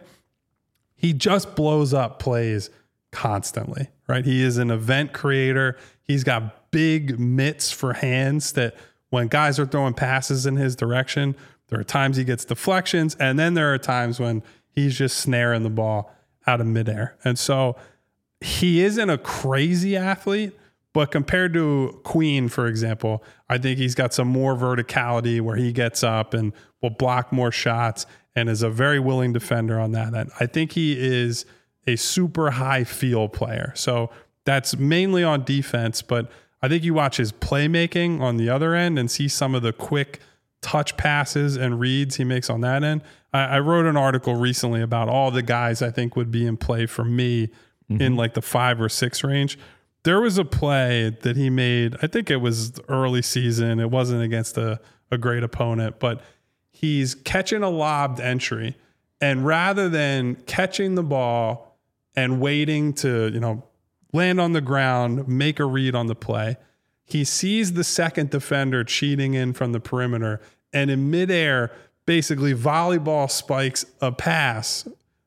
He just blows up plays constantly, right? He is an event creator. He's got big mitts for hands that when guys are throwing passes in his direction, there are times he gets deflections, and then there are times when he's just snaring the ball out of midair. And so he isn't a crazy athlete, but compared to Queen, for example, I think he's got some more verticality where he gets up and will block more shots and is a very willing defender on that end. I think he is a super high feel player. So that's mainly on defense, but I think you watch his playmaking on the other end and see some of the quick touch passes and reads he makes on that end. I, I wrote an article recently about all the guys I think would be in play for me mm-hmm. in like the five or six range. There was a play that he made, I think it was early season. It wasn't against a, a great opponent, but he's catching a lobbed entry. And rather than catching the ball and waiting to, you know, land on the ground, make a read on the play, he sees the second defender cheating in from the perimeter and in midair basically volleyball spikes a pass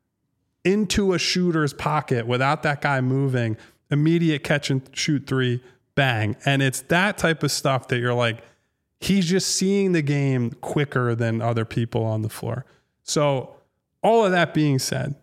into a shooter's pocket without that guy moving, immediate catch and shoot three, bang. And it's that type of stuff that you're like, he's just seeing the game quicker than other people on the floor. So all of that being said,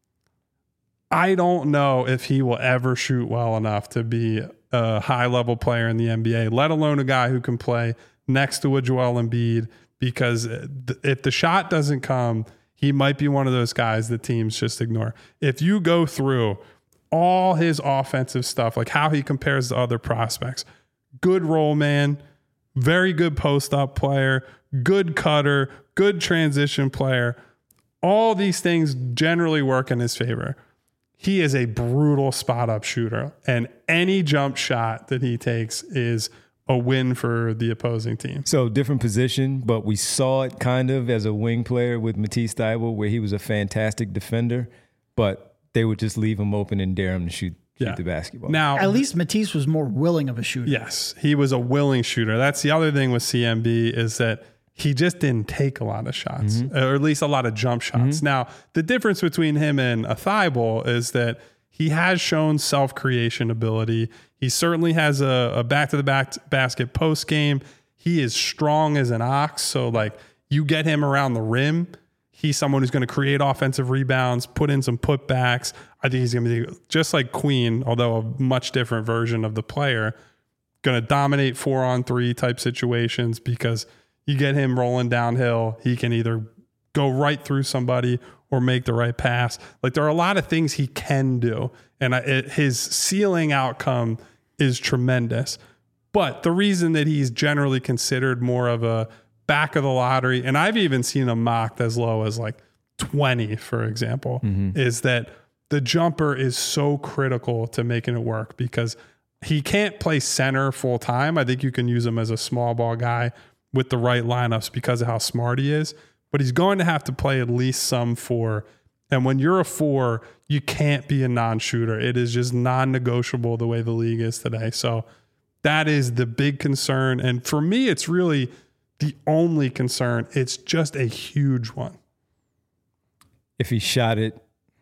I don't know if he will ever shoot well enough to be a high-level player in the N B A, let alone a guy who can play next to a Joel Embiid, because if the shot doesn't come, he might be one of those guys that teams just ignore. If you go through all his offensive stuff, like how he compares to other prospects, good roll man, very good post-up player, good cutter, good transition player, all these things generally work in his favor. He is a brutal spot-up shooter, and any jump shot that he takes is a win for the opposing team. So different position, but we saw it kind of as a wing player with Matisse Thybulle, where he was a fantastic defender, but they would just leave him open and dare him to shoot, shoot yeah. the basketball. Now, at least Matisse was more willing of a shooter. Yes, he was a willing shooter. That's the other thing with C M B is that he just didn't take a lot of shots, mm-hmm. or at least a lot of jump shots. Mm-hmm. Now, the difference between him and a Thybulle is that he has shown self-creation ability. He certainly has a, a back-to-the-back basket post game. He is strong as an ox. So, like, you get him around the rim, he's someone who's going to create offensive rebounds, put in some putbacks. I think he's going to be just like Queen, although a much different version of the player, going to dominate four-on-three type situations because you get him rolling downhill. He can either go right through somebody or make the right pass. Like, there are a lot of things he can do. And I, it, his ceiling outcome is tremendous. But the reason that he's generally considered more of a back of the lottery, and I've even seen him mocked as low as like twenty, for example, mm-hmm. is that the jumper is so critical to making it work because he can't play center full time. I think you can use him as a small ball guy with the right lineups because of how smart he is, but he's going to have to play at least some four. And when you're a four, you can't be a non-shooter. It is just non-negotiable the way the league is today. So that is the big concern. And for me, it's really the only concern. It's just a huge one. If he shot it,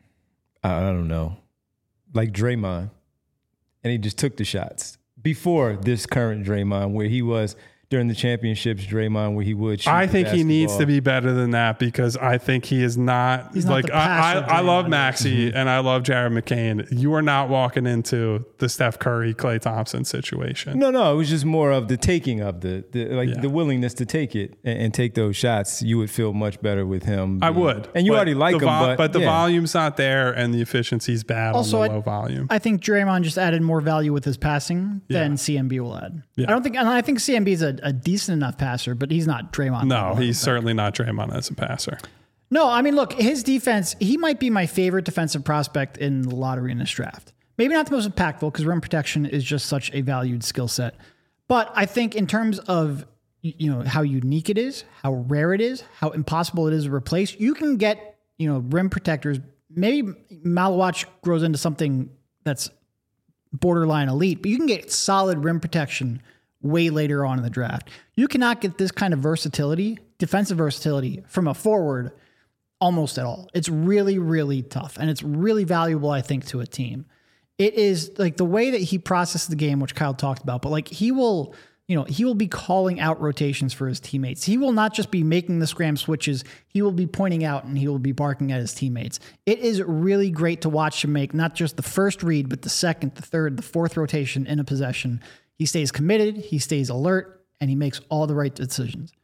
I don't know, like Draymond, and he just took the shots before this current Draymond, where he was during the championships, Draymond, where he would shoot I the think he needs basketball. to be better than that because I think he is not He's not like the I, I, passer I love Draymond Maxey Mm-hmm. and I love Jared McCain. You are not walking into the Steph Curry, Klay Thompson situation. No, no, it was just more of the taking of the, the like Yeah. the willingness to take it and, and take those shots. You would feel much better with him. I being- would. and you but already like the him, vol- but, but the yeah. volume's not there and the efficiency's bad Also, on the I- low volume. I think Draymond just added more value with his passing Yeah. than C M B will add. Yeah. I don't think, and I think C M B is a, a decent enough passer, but he's not Draymond. no, level. he's certainly not Draymond as a passer. No, I mean, look, his defense, he might be my favorite defensive prospect in the lottery in this draft. Maybe not the most impactful because rim protection is just such a valued skill set. But I think in terms of, you know, how unique it is, how rare it is, how impossible it is to replace, you can get, you know, rim protectors. Maybe Malawach grows into something that's borderline elite, but you can get solid rim protection way later on in the draft. You cannot get this kind of versatility, defensive versatility, from a forward almost at all. It's really, really tough. And it's really valuable, I think, to a team. It is like the way that he processes the game, which Kyle talked about, but like he will, you know, he will be calling out rotations for his teammates. He will not just be making the scram switches. He will be pointing out and he will be barking at his teammates. It is really great to watch him make not just the first read, but the second, the third, the fourth rotation in a possession. He stays committed, he stays alert, and he makes all the right decisions.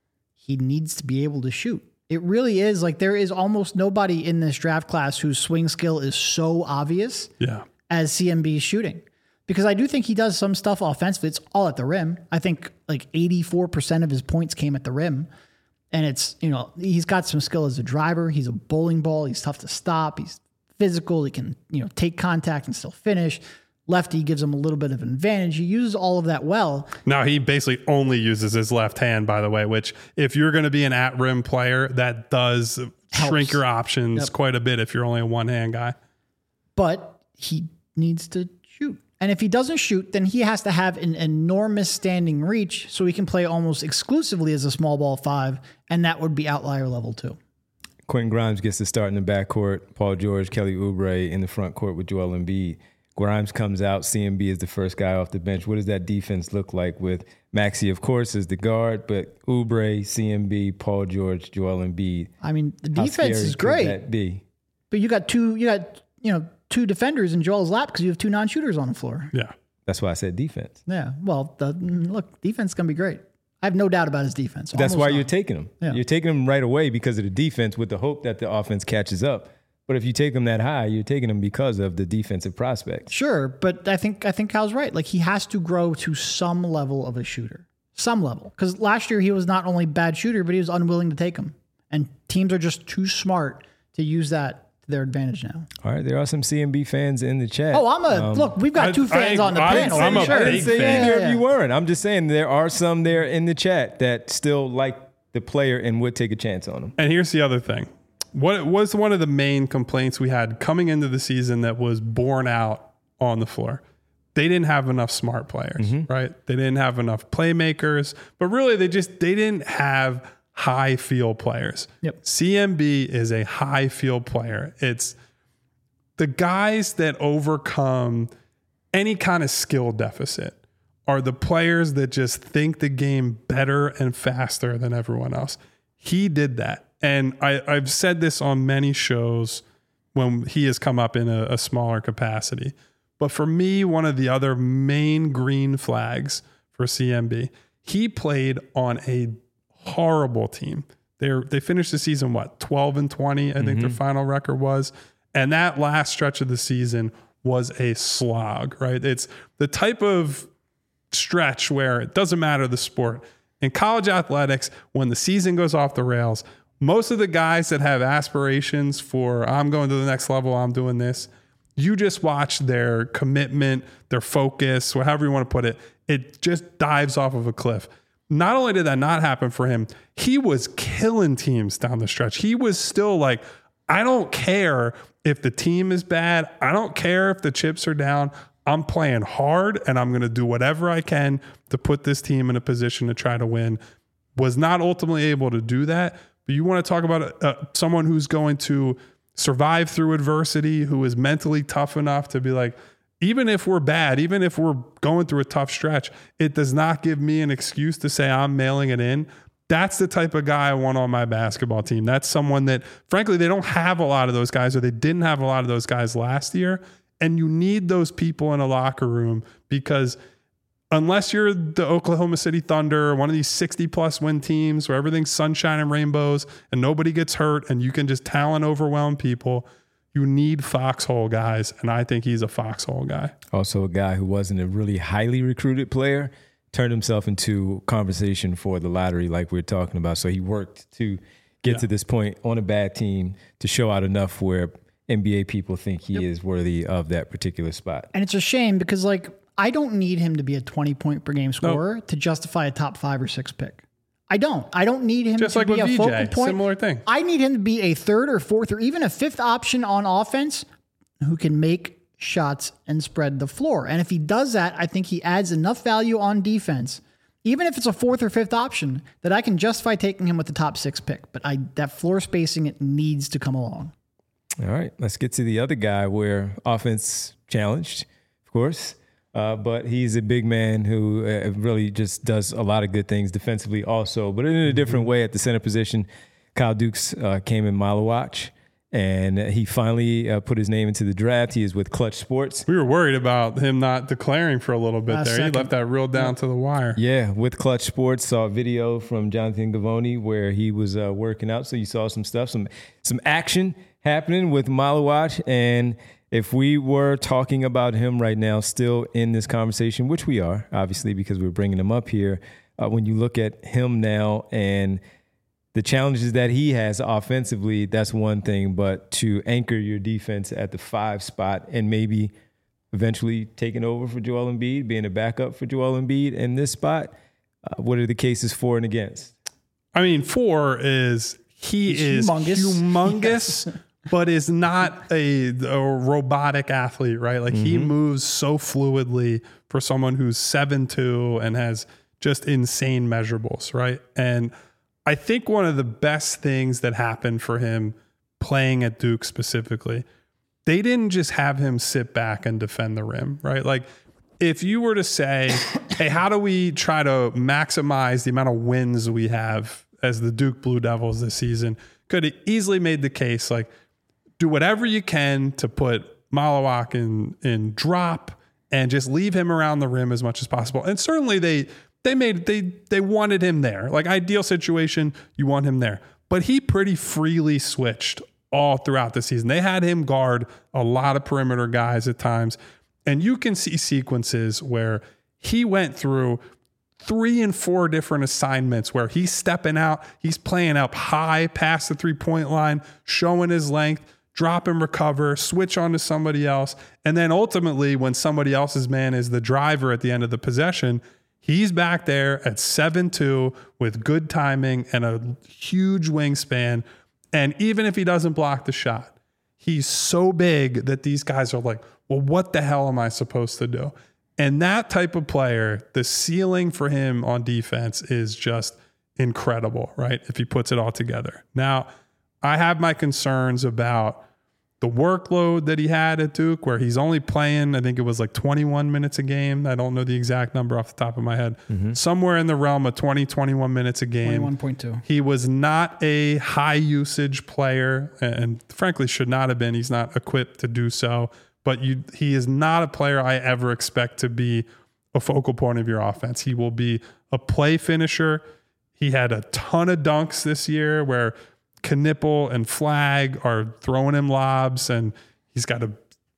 He needs to be able to shoot. It really is like there is almost nobody in this draft class whose swing skill is so obvious Yeah. as C M B's shooting. Because I do think he does some stuff offensively. It's all at the rim. I think like eighty-four percent of his points came at the rim. And it's, you know, he's got some skill as a driver. He's a bowling ball. He's tough to stop. He's physical. He can, you know, take contact and still finish. Lefty gives him a little bit of an advantage. He uses all of that well. Now, he basically only uses his left hand, by the way, which if you're going to be an at-rim player, that does Helps. shrink your options Yep. quite a bit if you're only a one-hand guy. But he needs to shoot. And if he doesn't shoot, then he has to have an enormous standing reach so he can play almost exclusively as a small ball five, and that would be outlier level two. Quentin Grimes gets to start in the backcourt. Paul George, Kelly Oubre in the front court with Joel Embiid. Grimes comes out. C M B is the first guy off the bench. What does that defense look like with Maxey, of course, as the guard, but Oubre, C M B, Paul George, Joel Embiid? I mean, the How defense scary is could great, that be? but you got two, you got, you know, two defenders in Joel's lap because you have two non-shooters on the floor. Yeah. That's why I said defense. Yeah. Well, the, look, defense is going to be great. I have no doubt about his defense. That's Almost why none. you're taking him. Yeah. You're taking him right away because of the defense with the hope that the offense catches up. But if you take him that high, you're taking him because of the defensive prospects. Sure, but I think I think Kyle's right. Like he has to grow to some level of a shooter, some level. Because last year he was not only a bad shooter, but he was unwilling to take him. And teams are just too smart to use that to their advantage now. All right, there are some C M B fans in the chat. Oh, I'm a Um, look. We've got I- two fans I- on the I'm- panel. I'm a sure. I big didn't say fan. either Yeah, of you yeah. weren't. I'm just saying there are some there in the chat that still like the player and would take a chance on him. And here's the other thing. What was one of the main complaints we had coming into the season that was borne out on the floor? They didn't have enough smart players, right? They didn't have enough playmakers, but really they just, they didn't have high field players. Yep. C M B is a high field player. It's the guys that overcome any kind of skill deficit are the players that just think the game better and faster than everyone else. He did that. And I, I've said this on many shows when he has come up in a, a smaller capacity. But for me, one of the other main green flags for C M B, he played on a horrible team. They they finished the season, what, twelve and twenty, I think their final record was. And that last stretch of the season was a slog, right? It's the type of stretch where it doesn't matter the sport. In college athletics, when the season goes off the rails, most of the guys that have aspirations for, I'm going to the next level, I'm doing this, you just watch their commitment, their focus, whatever you want to put it, it just dives off of a cliff. Not only did that not happen for him, he was killing teams down the stretch. He was still like, I don't care if the team is bad. I don't care if the chips are down. I'm playing hard and I'm going to do whatever I can to put this team in a position to try to win. Was not ultimately able to do that. But you want to talk about uh, someone who's going to survive through adversity, who is mentally tough enough to be like, even if we're bad, even if we're going through a tough stretch, it does not give me an excuse to say I'm mailing it in. That's the type of guy I want on my basketball team. That's someone that, frankly, they don't have a lot of those guys, or they didn't have a lot of those guys last year. And you need those people in a locker room, because unless you're the Oklahoma City Thunder, one of these sixty plus win teams where everything's sunshine and rainbows and nobody gets hurt and you can just talent overwhelm people, you need foxhole guys. And I think he's a foxhole guy. Also a guy who wasn't a really highly recruited player, turned himself into conversation for the lottery like we we're talking about. So he worked to get yeah. to this point on a bad team to show out enough where N B A people think he yep. is worthy of that particular spot. And it's a shame because, like, I don't need him to be a twenty point per game scorer nope. to justify a top five or six pick. I don't. I don't need him Just to like be with a V J, focal point. Similar thing. I need him to be a third or fourth or even a fifth option on offense who can make shots and spread the floor. And if he does that, I think he adds enough value on defense, even if it's a fourth or fifth option, that I can justify taking him with the top six pick. But I that floor spacing, it needs to come along. All right, let's get to the other guy where offense challenged, of course, uh, but he's a big man who uh, really just does a lot of good things defensively also, but in a different way at the center position. Kyle Dukes uh, came in Malawach, and he finally uh, put his name into the draft. He is with Clutch Sports. We were worried about him not declaring for a little bit Last there. Second. He left that real down to the wire. Yeah, with Clutch Sports, saw a video from Jonathan Givony where he was uh, working out, so you saw some stuff, some some action happening with Malawach. And if we were talking about him right now, still in this conversation, which we are, obviously, because we're bringing him up here, uh, when you look at him now and the challenges that he has offensively, that's one thing, but to anchor your defense at the five spot and maybe eventually taking over for Joel Embiid, being a backup for Joel Embiid in this spot, uh, what are the cases for and against? I mean, four is he He's is humongous, humongous yes. but is not a, a robotic athlete, right? Like mm-hmm. he moves so fluidly for someone who's seven two and has just insane measurables, right? And I think one of the best things that happened for him playing at Duke specifically, they didn't just have him sit back and defend the rim, right? Like if you were to say, hey, how do we try to maximize the amount of wins we have as the Duke Blue Devils this season, could have easily made the case, like, do whatever you can to put Malawach in, in drop and just leave him around the rim as much as possible. And certainly they they made they they wanted him there. Like ideal situation, you want him there. But he pretty freely switched all throughout the season. They had him guard a lot of perimeter guys at times. And you can see sequences where he went through three and four different assignments where he's stepping out, he's playing up high past the three-point line, showing his length, drop and recover, switch on to somebody else. And then ultimately, when somebody else's man is the driver at the end of the possession, he's back there at seven two with good timing and a huge wingspan. And even if he doesn't block the shot, he's so big that these guys are like, well, what the hell am I supposed to do? And that type of player, the ceiling for him on defense is just incredible, right? If he puts it all together. Now, I have my concerns about the workload that he had at Duke, where he's only playing, I think it was like twenty-one minutes a game. I don't know the exact number off the top of my head. Mm-hmm. Somewhere in the realm of twenty, twenty-one minutes a game. twenty-one point two. He was not a high usage player and frankly should not have been. He's not equipped to do so. But you, he is not a player I ever expect to be a focal point of your offense. He will be a play finisher. He had a ton of dunks this year where Knipple and Flag are throwing him lobs, and he's got a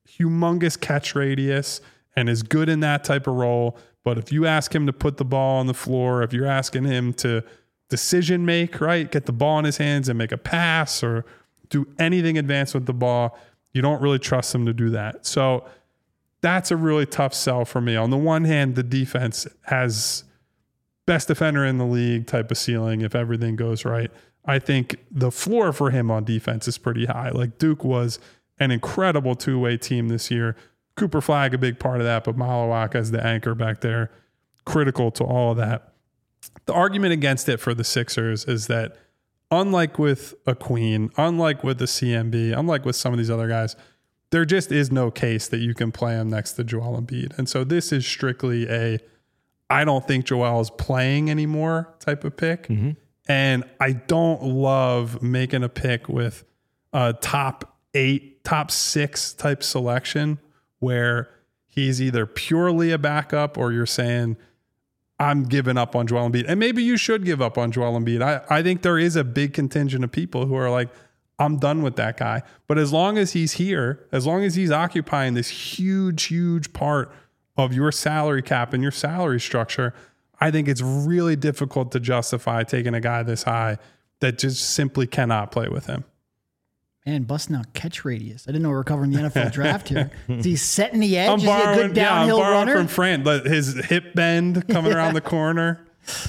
humongous catch radius and is good in that type of role. But if you ask him to put the ball on the floor, if you're asking him to decision make, right, get the ball in his hands and make a pass or do anything advanced with the ball, you don't really trust him to do that. So that's a really tough sell for me. On the one hand, the defense has best defender in the league type of ceiling if everything goes right. I think the floor for him on defense is pretty high. Like Duke was an incredible two-way team this year. Cooper Flagg, a big part of that, but Malawak as the anchor back there, critical to all of that. The argument against it for the Sixers is that unlike with a Queen, unlike with the C M B, unlike with some of these other guys, there just is no case that you can play him next to Joel Embiid. And so this is strictly a, I don't think Joel is playing anymore type of pick. Mm-hmm. And I don't love making a pick with a top eight, top six type selection where he's either purely a backup or you're saying, I'm giving up on Joel Embiid. And maybe you should give up on Joel Embiid. I, I think there is a big contingent of people who are like, I'm done with that guy. But as long as he's here, as long as he's occupying this huge, huge part of your salary cap and your salary structure, I think it's really difficult to justify taking a guy this high that just simply cannot play with him. Man, busting out catch radius. I didn't know we were covering the N F L draft here. Is he setting the edge? I'm Is borrowing, he a good downhill yeah, I'm borrowing runner? from Fran, but his hip bend coming around the corner.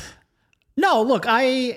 No, look, I.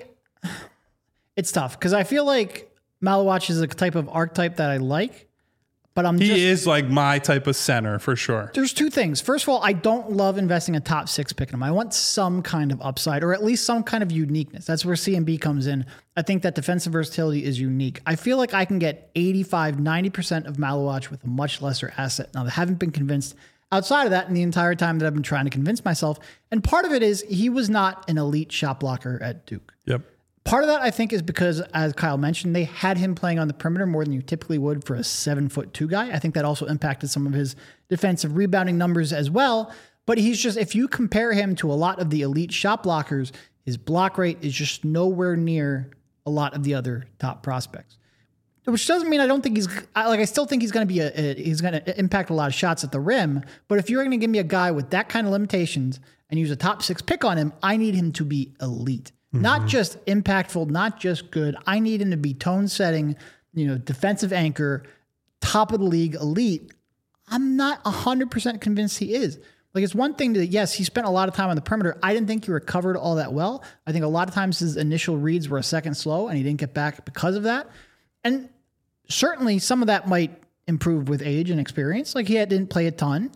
It's tough because I feel like Malawak is a type of archetype that I like, but I'm he just, is like my type of center for sure. There's two things. First of all, I don't love investing a top six pick in him. I want some kind of upside or at least some kind of uniqueness. That's where C M B comes in. I think that defensive versatility is unique. I feel like I can get eighty-five, ninety percent of Malawak with a much lesser asset. Now, I haven't been convinced outside of that in the entire time that I've been trying to convince myself. And part of it is he was not an elite shot blocker at Duke. Yep. Part of that, I think, is because, as Kyle mentioned, they had him playing on the perimeter more than you typically would for a seven foot two guy. I think that also impacted some of his defensive rebounding numbers as well. But he's just, if you compare him to a lot of the elite shot blockers, his block rate is just nowhere near a lot of the other top prospects. Which doesn't mean I don't think he's, like, I still think he's going to be a, a he's going to impact a lot of shots at the rim. But if you're going to give me a guy with that kind of limitations and use a top six pick on him, I need him to be elite. Mm-hmm. Not just impactful, not just good. I need him to be tone setting, you know, defensive anchor, top of the league, elite. I'm not one hundred percent convinced he is. Like, it's one thing that, yes, he spent a lot of time on the perimeter. I didn't think he recovered all that well. I think a lot of times his initial reads were a second slow and he didn't get back because of that. And certainly some of that might improve with age and experience. Like, he had, didn't play a ton.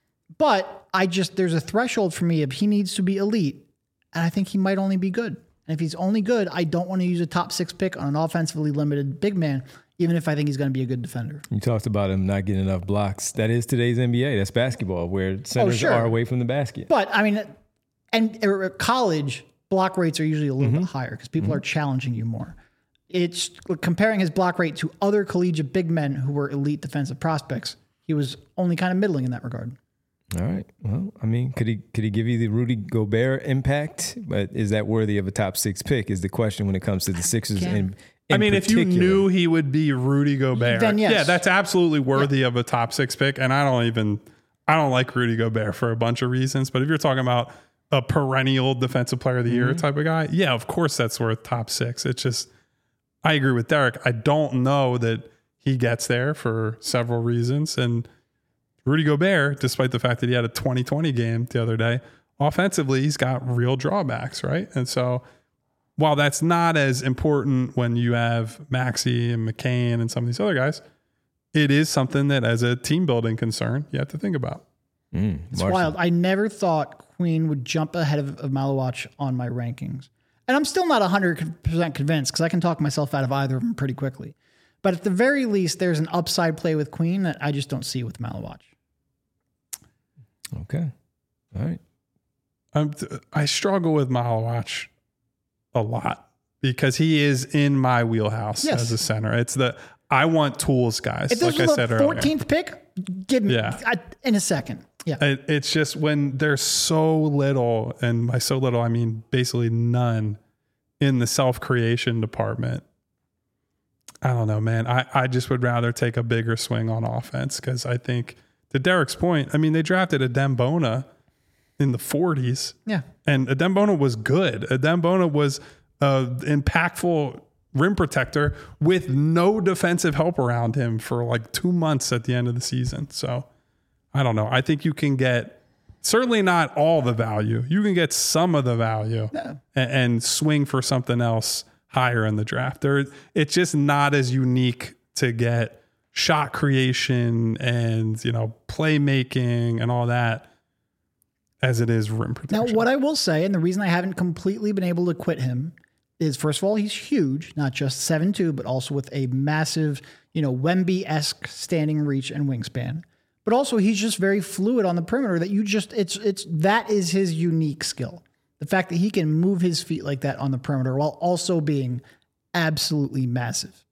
But I just, there's a threshold for me if he needs to be elite. And I think he might only be good. And if he's only good, I don't want to use a top six pick on an offensively limited big man, even if I think he's going to be a good defender. You talked about him not getting enough blocks. That is today's N B A. That's basketball, where centers oh, sure. are away from the basket. But, I mean, and at college, block rates are usually a little mm-hmm. bit higher because people mm-hmm. are challenging you more. It's comparing his block rate to other collegiate big men who were elite defensive prospects. He was only kind of middling in that regard. All right. Well, I mean, could he could he give you the Rudy Gobert impact? But is that worthy of a top six pick? Is the question when it comes to the Sixers. In, in I mean, particular. If you knew he would be Rudy Gobert, then yes. yeah, that's absolutely worthy yeah. of a top six pick. And I don't even I don't like Rudy Gobert for a bunch of reasons. But if you're talking about a perennial defensive player of the year mm-hmm. type of guy, yeah, of course that's worth top six. It's just I agree with Derek. I don't know that he gets there for several reasons. And Rudy Gobert, despite the fact that he had a twenty twenty game the other day, offensively, he's got real drawbacks, right? And so while that's not as important when you have Maxey and McCain and some of these other guys, it is something that as a team building concern, you have to think about. Mm, it's wild. I never thought Queen would jump ahead of, of Malawak on my rankings. And I'm still not one hundred percent convinced because I can talk myself out of either of them pretty quickly. But at the very least, there's an upside play with Queen that I just don't see with Malawak. Okay. All right. I'm, I struggle with Malawak a lot because he is in my wheelhouse yes. as a center. It's the, I want tools guys. If this like was I said the earlier. fourteenth pick, give me yeah. I, in a second. Yeah. It, it's just when there's so little, and by so little, I mean basically none in the self-creation department. I don't know, man. I, I just would rather take a bigger swing on offense because I think, to Derek's point, I mean, they drafted Adem Bona in the forties. Yeah. And Adem Bona was good. Adem Bona was an impactful rim protector with no defensive help around him for like two months at the end of the season. So I don't know. I think you can get certainly not all the value. You can get some of the value yeah. and, and swing for something else higher in the draft. There, it's just not as unique to get shot creation and, you know, playmaking and all that as it is rim protection. Now, what I will say, and the reason I haven't completely been able to quit him is, first of all, he's huge, not just seven two, but also with a massive, you know, Wemby-esque standing reach and wingspan. But also he's just very fluid on the perimeter that you just, it's, it's, that is his unique skill. The fact that he can move his feet like that on the perimeter while also being absolutely massive.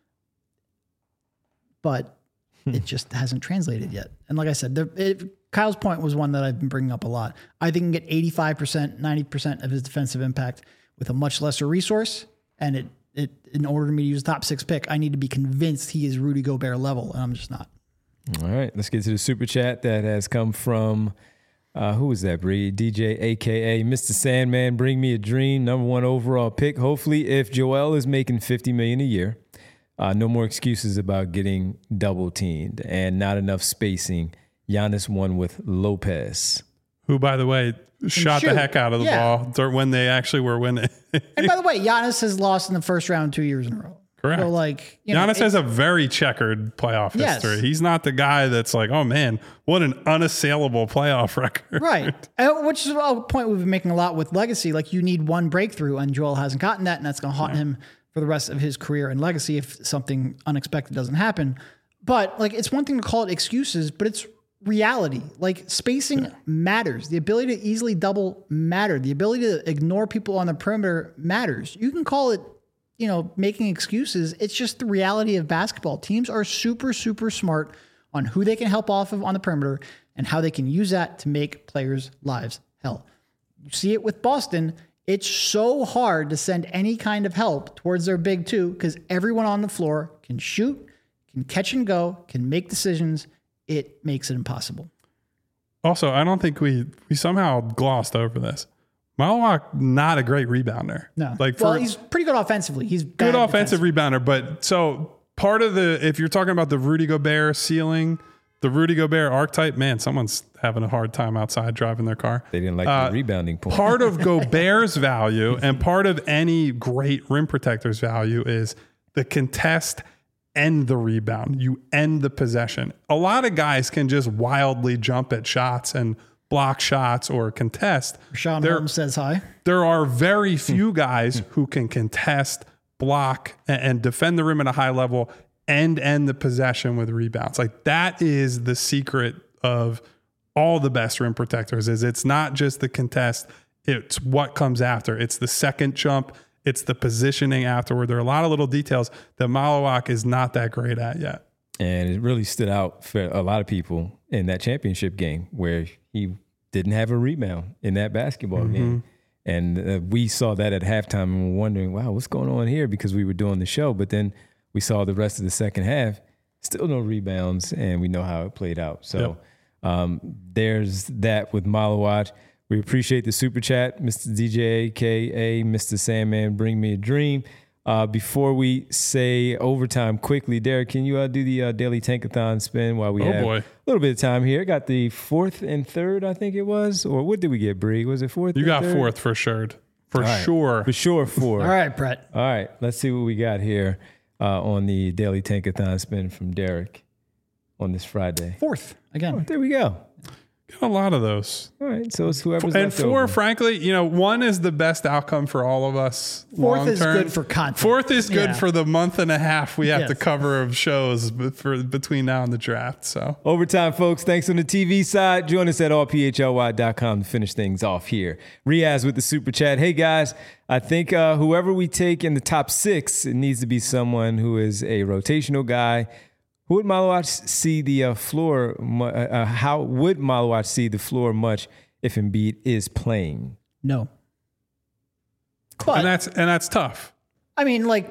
But it just hasn't translated yet. And like I said, the, it, Kyle's point was one that I've been bringing up a lot. I think he can get eighty-five percent, ninety percent of his defensive impact with a much lesser resource. And it, it, in order for me to use a top six pick, I need to be convinced he is Rudy Gobert level. And I'm just not. All right, let's get to the super chat that has come from... Uh, who was that, Bree? D J, a k a. Mister Sandman, bring me a dream, number one overall pick. Hopefully, if Joel is making fifty million dollars a year, uh, no more excuses about getting double-teamed and not enough spacing. Giannis won with Lopez. Who, by the way, shot shoot. the heck out of the Yeah. ball during- when they actually were winning. And by the way, Giannis has lost in the first round two years in a row. Correct. So like, you know, Giannis it- has a very checkered playoff Yes. history. He's not the guy that's like, oh man, what an unassailable playoff record. Right. Uh, Which is a point we've been making a lot with legacy. Like you need one breakthrough, and Joel hasn't gotten that, and that's going to haunt yeah. him for the rest of his career and legacy if something unexpected doesn't happen. But like, it's one thing to call it excuses, but it's reality. Like spacing yeah. matters. The ability to easily double matters. The ability to ignore people on the perimeter matters. You can call it, you know, making excuses. It's just the reality of basketball. Teams are super, super smart on who they can help off of on the perimeter and how they can use that to make players' lives hell. You see it with Boston. It's so hard to send any kind of help towards their big two because everyone on the floor can shoot, can catch and go, can make decisions. It makes it impossible. Also, I don't think we we somehow glossed over this. Malawak, not a great rebounder. No. Like for, well, he's pretty good offensively. He's good bad offensive rebounder. But so part of the, if you're talking about the Rudy Gobert ceiling, the Rudy Gobert archetype, man, someone's having a hard time outside driving their car. They didn't like uh, the rebounding point. Part of Gobert's value and part of any great rim protector's value is the contest and the rebound. You end the possession. A lot of guys can just wildly jump at shots and block shots or contest. Sean there, Holmes says hi. There are very few guys who can contest, block, and, and defend the rim at a high level and end the possession with rebounds. Like that is the secret of all the best rim protectors. Is it's not just the contest, it's what comes after. It's the second jump, it's the positioning afterward. There are a lot of little details that Malawak is not that great at yet. And it really stood out for a lot of people in that championship game where he didn't have a rebound in that basketball mm-hmm. game. And uh, we saw that at halftime and we were wondering, wow, what's going on here? Because we were doing the show. But then we saw the rest of the second half, still no rebounds, and we know how it played out. So yep. um, there's that with Malawak. We appreciate the super chat, Mister D J, a k a. Mister Sandman, bring me a dream. Uh, before we say overtime quickly, Derek, can you uh, do the uh, daily tankathon spin while we oh have boy. a little bit of time here? Got the fourth and third, I think it was. Or what did we get, Bree? Was it fourth? You got third? fourth for sure. For right. sure. For sure, four. All right, Brett. All right, let's see what we got here uh, on the daily tankathon spin from Derek on this Friday. Fourth, again. Oh, there we go. Got a lot of those. All right, so it's whoever's and left four, over. frankly, you know, one is the best outcome for all of us. Fourth is long-term. good for content. Fourth is good Yeah. for the month and a half we have Yes. to cover of shows b- for between now and the draft. So Overtime, folks. Thanks on the T V side. Join us at all p h l y dot com to finish things off here. Riaz with the super chat. Hey, guys, I think uh, whoever we take in the top six, it needs to be someone who is a rotational guy. Who would Malawak see the uh, floor? Uh, uh, how would Malawak see the floor much if Embiid is playing? No. But, and that's and that's tough. I mean, like,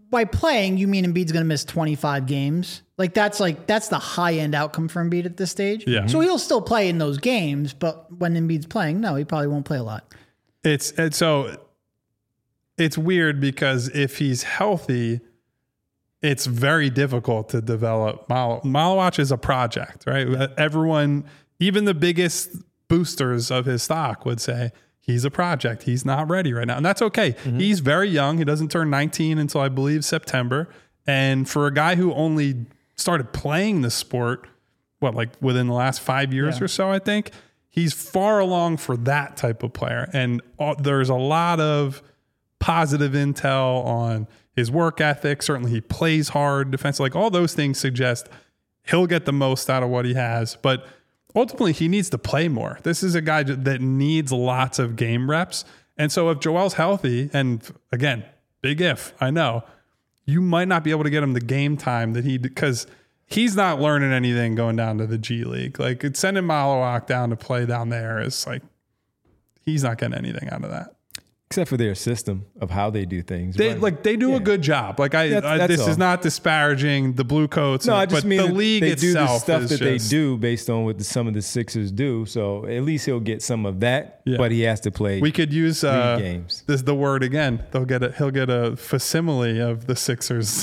by playing, you mean Embiid's going to miss twenty-five games? Like that's like that's the high end outcome for Embiid at this stage. Yeah. So he'll still play in those games, but when Embiid's playing, no, he probably won't play a lot. It's, it's so it's weird because if he's healthy, it's very difficult to develop. Mal- Malawach is a project, right? Everyone, even the biggest boosters of his stock would say he's a project. He's not ready right now. And that's okay. Mm-hmm. He's very young. He doesn't turn nineteen until I believe September. And for a guy who only started playing the sport, what, like within the last five years yeah. or so, I think, he's far along for that type of player. And uh, there's a lot of positive intel on his work ethic. Certainly he plays hard defense. Like all those things suggest he'll get the most out of what he has. But ultimately he needs to play more. This is a guy that needs lots of game reps. And so if Joel's healthy, and again, big if, I know, you might not be able to get him the game time that he, because he's not learning anything going down to the G League. Like it's sending Malawach down to play down there is like, he's not getting anything out of that. Except for their system of how they do things. They right? like they do yeah. a good job. Like I, that's, I that's this all. is not disparaging the Blue Coats. No, and, I just but mean the league they itself do the stuff is that just, they do based on what the, some of the Sixers do. So at least he'll get some of that. Yeah. But he has to play. We could use uh, games. This the word again. They'll get a he'll get a facsimile of the Sixers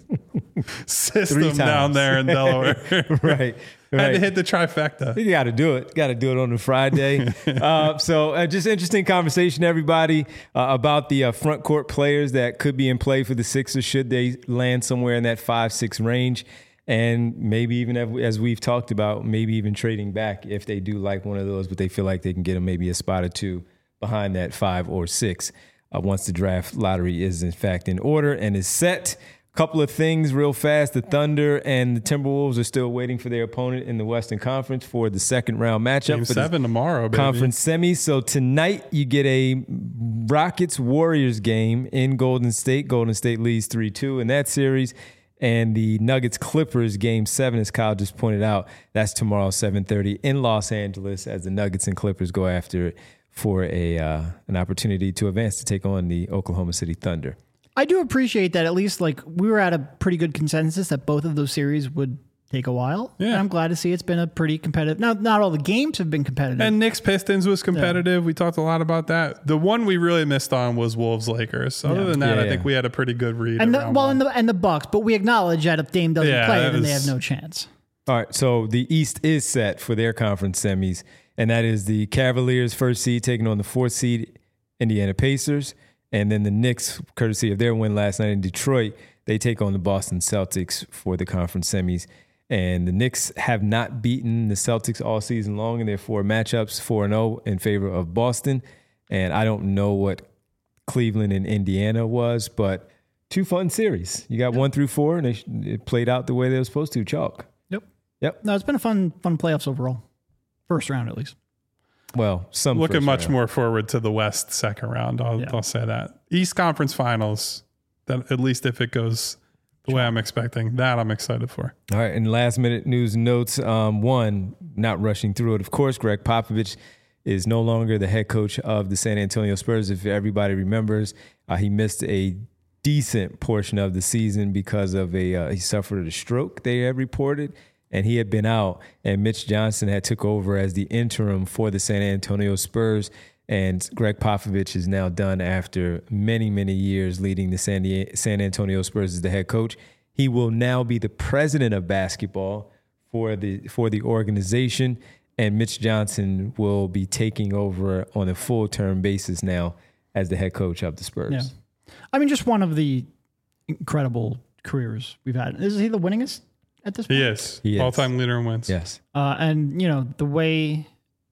system down there in Delaware. right. Had right. to hit the trifecta. You got to do it. Got to do it on a Friday. uh, so uh, just interesting conversation, everybody, uh, about the uh, front court players that could be in play for the Sixers should they land somewhere in that five, six range. And maybe even as we've talked about, maybe even trading back if they do like one of those, but they feel like they can get them maybe a spot or two behind that five or six uh, once the draft lottery is in fact in order and is set. Couple of things real fast. The Thunder and the Timberwolves are still waiting for their opponent in the Western Conference for the second round matchup. Game for seven tomorrow, baby. Conference semis. So tonight you get a Rockets-Warriors game in Golden State. Golden State leads three two in that series. And the Nuggets-Clippers game seven, as Kyle just pointed out, that's tomorrow, seven thirty in Los Angeles as the Nuggets and Clippers go after it for a uh, an opportunity to advance to take on the Oklahoma City Thunder. I do appreciate that at least like we were at a pretty good consensus that both of those series would take a while. Yeah. And I'm glad to see it's been a pretty competitive. Now, not all the games have been competitive. And Knicks Pistons was competitive. Yeah. We talked a lot about that. The one we really missed on was Wolves Lakers. Other yeah. than that, yeah, I yeah. think we had a pretty good read. And the, well, one. and the and the Bucks, but we acknowledge that if Dame doesn't yeah, play, then was, they have no chance. All right, so the East is set for their conference semis, and that is the Cavaliers first seed taking on the fourth seed Indiana Pacers. And then the Knicks, courtesy of their win last night in Detroit, they take on the Boston Celtics for the conference semis. And the Knicks have not beaten the Celtics all season long in their four matchups, four and oh in favor of Boston. And I don't know what Cleveland and Indiana was, but two fun series. You got yep. one through four, and they, it played out the way they were supposed to, chalk. Yep. Yep. No, it's been a fun, fun playoffs overall. First round, at least. Well, some looking much round. more forward to the West second round. I'll, yeah. I'll say that. East Conference Finals, that at least if it goes the sure. way I'm expecting, that I'm excited for. All right, and last minute news and notes. Um, one, not rushing through it. Of course, Greg Popovich is no longer the head coach of the San Antonio Spurs. If everybody remembers, uh, he missed a decent portion of the season because of a uh, he suffered a stroke. They have reported. And he had been out, and Mitch Johnson had took over as the interim for the San Antonio Spurs. And Greg Popovich is now done after many, many years leading the San, Di- San Antonio Spurs as the head coach. He will now be the president of basketball for the for the organization, and Mitch Johnson will be taking over on a full-term basis now as the head coach of the Spurs. Yeah. I mean, just one of the incredible careers we've had. Is he the winningest? At this point? He is. He is. All-time leader in wins. Yes. Uh, and, you know, the way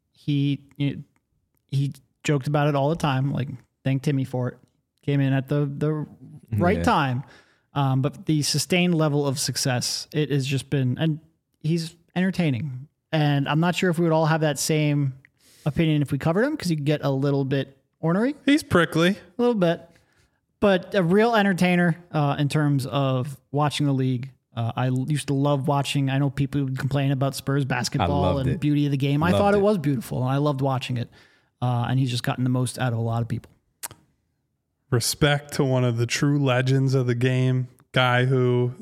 he you know, he joked about it all the time, like, thank Timmy for it. Came in at the, the right yeah. time. Um, but the sustained level of success, it has just been, and he's entertaining. And I'm not sure if we would all have that same opinion if we covered him, because you get a little bit ornery. He's prickly. A little bit. But a real entertainer uh, in terms of watching the league. Uh, I used to love watching. I know people would complain about Spurs basketball and it. beauty of the game. Loved I thought it. it was beautiful, and I loved watching it. Uh, and he's just gotten the most out of a lot of people. respect to one of the true legends of the game, guy who,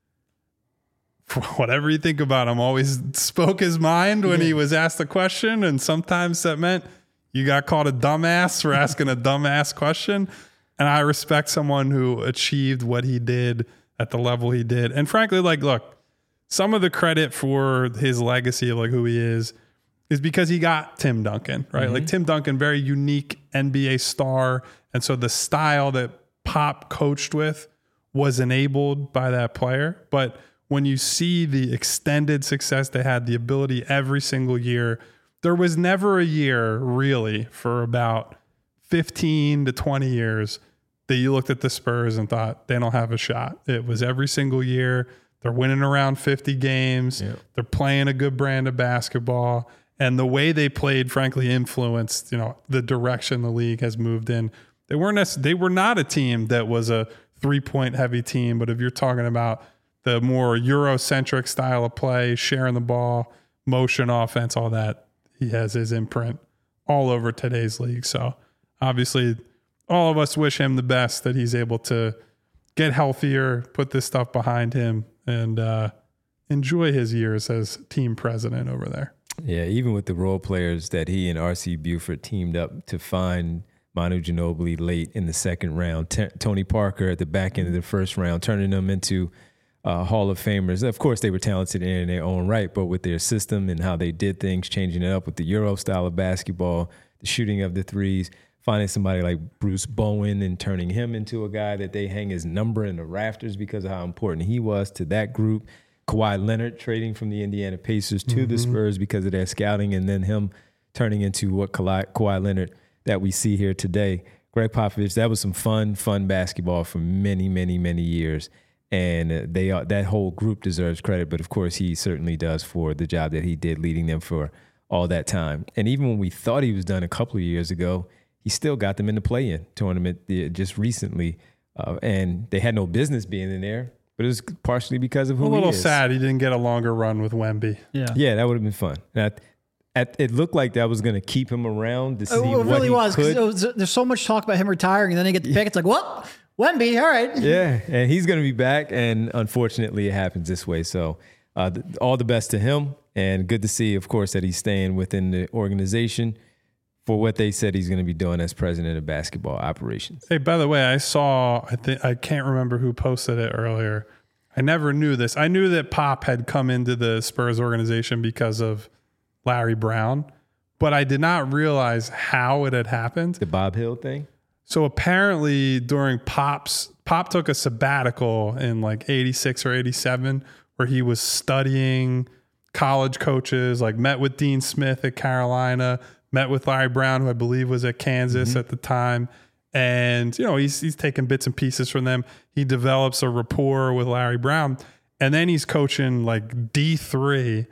for whatever you think about him, always spoke his mind when yeah. he was asked a question. And sometimes that meant you got called a dumbass for asking a dumbass question. And I respect someone who achieved what he did at the level he did. And frankly, like, look, some of the credit for his legacy of like who he is is because he got Tim Duncan, right? Mm-hmm. Like Tim Duncan, very unique N B A star. And so the style that Pop coached with was enabled by that player. But when you see the extended success they had, the ability every single year, there was never a year really for about fifteen to twenty years that you looked at the Spurs and thought they don't have a shot. It was every single year. They're winning around fifty games. Yep. They're playing a good brand of basketball. And the way they played, frankly, influenced, you know, the direction the league has moved in. They weren't they were not a team that was a three-point heavy team, but if you're talking about the more Eurocentric style of play, sharing the ball, motion offense, all that, he has his imprint all over today's league. So obviously all of us wish him the best, that he's able to get healthier, put this stuff behind him, and uh, enjoy his years as team president over there. Yeah, even with the role players that he and R C Buford teamed up to find Manu Ginobili late in the second round, T- Tony Parker at the back end of the first round, turning them into uh, Hall of Famers. Of course, they were talented in their own right, but with their system and how they did things, changing it up with the Euro style of basketball, the shooting of the threes, finding somebody like Bruce Bowen and turning him into a guy that they hang his number in the rafters because of how important he was to that group. Kawhi Leonard trading from the Indiana Pacers to mm-hmm. the Spurs because of their scouting, and then him turning into what Kawhi, Kawhi Leonard that we see here today. Greg Popovich, that was some fun, fun basketball for many, many, many years. And they are, that whole group deserves credit, but of course he certainly does for the job that he did leading them for all that time. And even when we thought he was done a couple of years ago, he still got them in the play-in tournament just recently. Uh, and they had no business being in there, but it was partially because of who he is. A little sad he didn't get a longer run with Wemby. Yeah, yeah, that would have been fun. At, at, it looked like that was going to keep him around to see it what really he was, could. It was. There's so much talk about him retiring, and then they get the pick. It's like, what? Wemby, all right. Yeah, and he's going to be back, and unfortunately it happens this way. So uh, th- all the best to him, and good to see, of course, that he's staying within the organization for what they said he's going to be doing as president of basketball operations. Hey, by the way, I saw, I think I can't remember who posted it earlier. I never knew this. I knew that Pop had come into the Spurs organization because of Larry Brown, but I did not realize how it had happened. The Bob Hill thing? So apparently during Pop's, Pop took a sabbatical in like eighty-six or eighty-seven where he was studying college coaches, like met with Dean Smith at Carolina, met with Larry Brown, who I believe was at Kansas mm-hmm. at the time. And, you know, he's he's taking bits and pieces from them. He develops a rapport with Larry Brown. And then he's coaching like D three.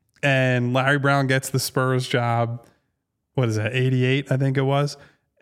And Larry Brown gets the Spurs job. What is that, eighty-eight, I think it was.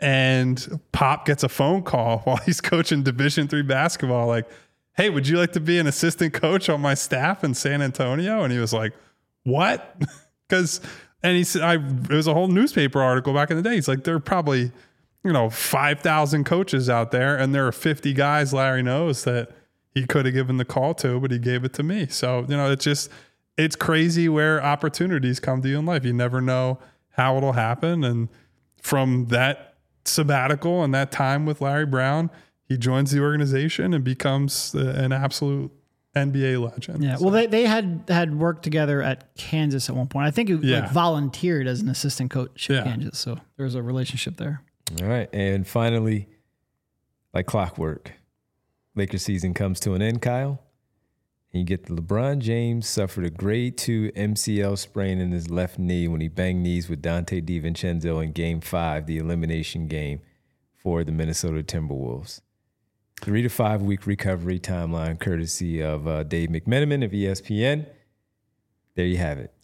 And Pop gets a phone call while he's coaching Division three basketball. Like, hey, would you like to be an assistant coach on my staff in San Antonio? And he was like, what? Because... And he said, I, it was a whole newspaper article back in the day. He's like, there are probably, you know, five thousand coaches out there, and there are fifty guys Larry knows that he could have given the call to, but he gave it to me. So, you know, it's just, it's crazy where opportunities come to you in life. You never know how it'll happen. And from that sabbatical and that time with Larry Brown, he joins the organization and becomes an absolute N B A legend. Yeah. So. Well, they, they had had worked together at Kansas at one point. I think he yeah. like volunteered as an assistant coach at yeah. Kansas. So there was a relationship there. All right. And finally, like clockwork, Lakers season comes to an end, Kyle. And you get the LeBron James suffered a grade two M C L sprain in his left knee when he banged knees with Dante DiVincenzo in game five, the elimination game for the Minnesota Timberwolves. Three to five week recovery timeline, courtesy of uh, Dave McMenamin of E S P N. There you have it.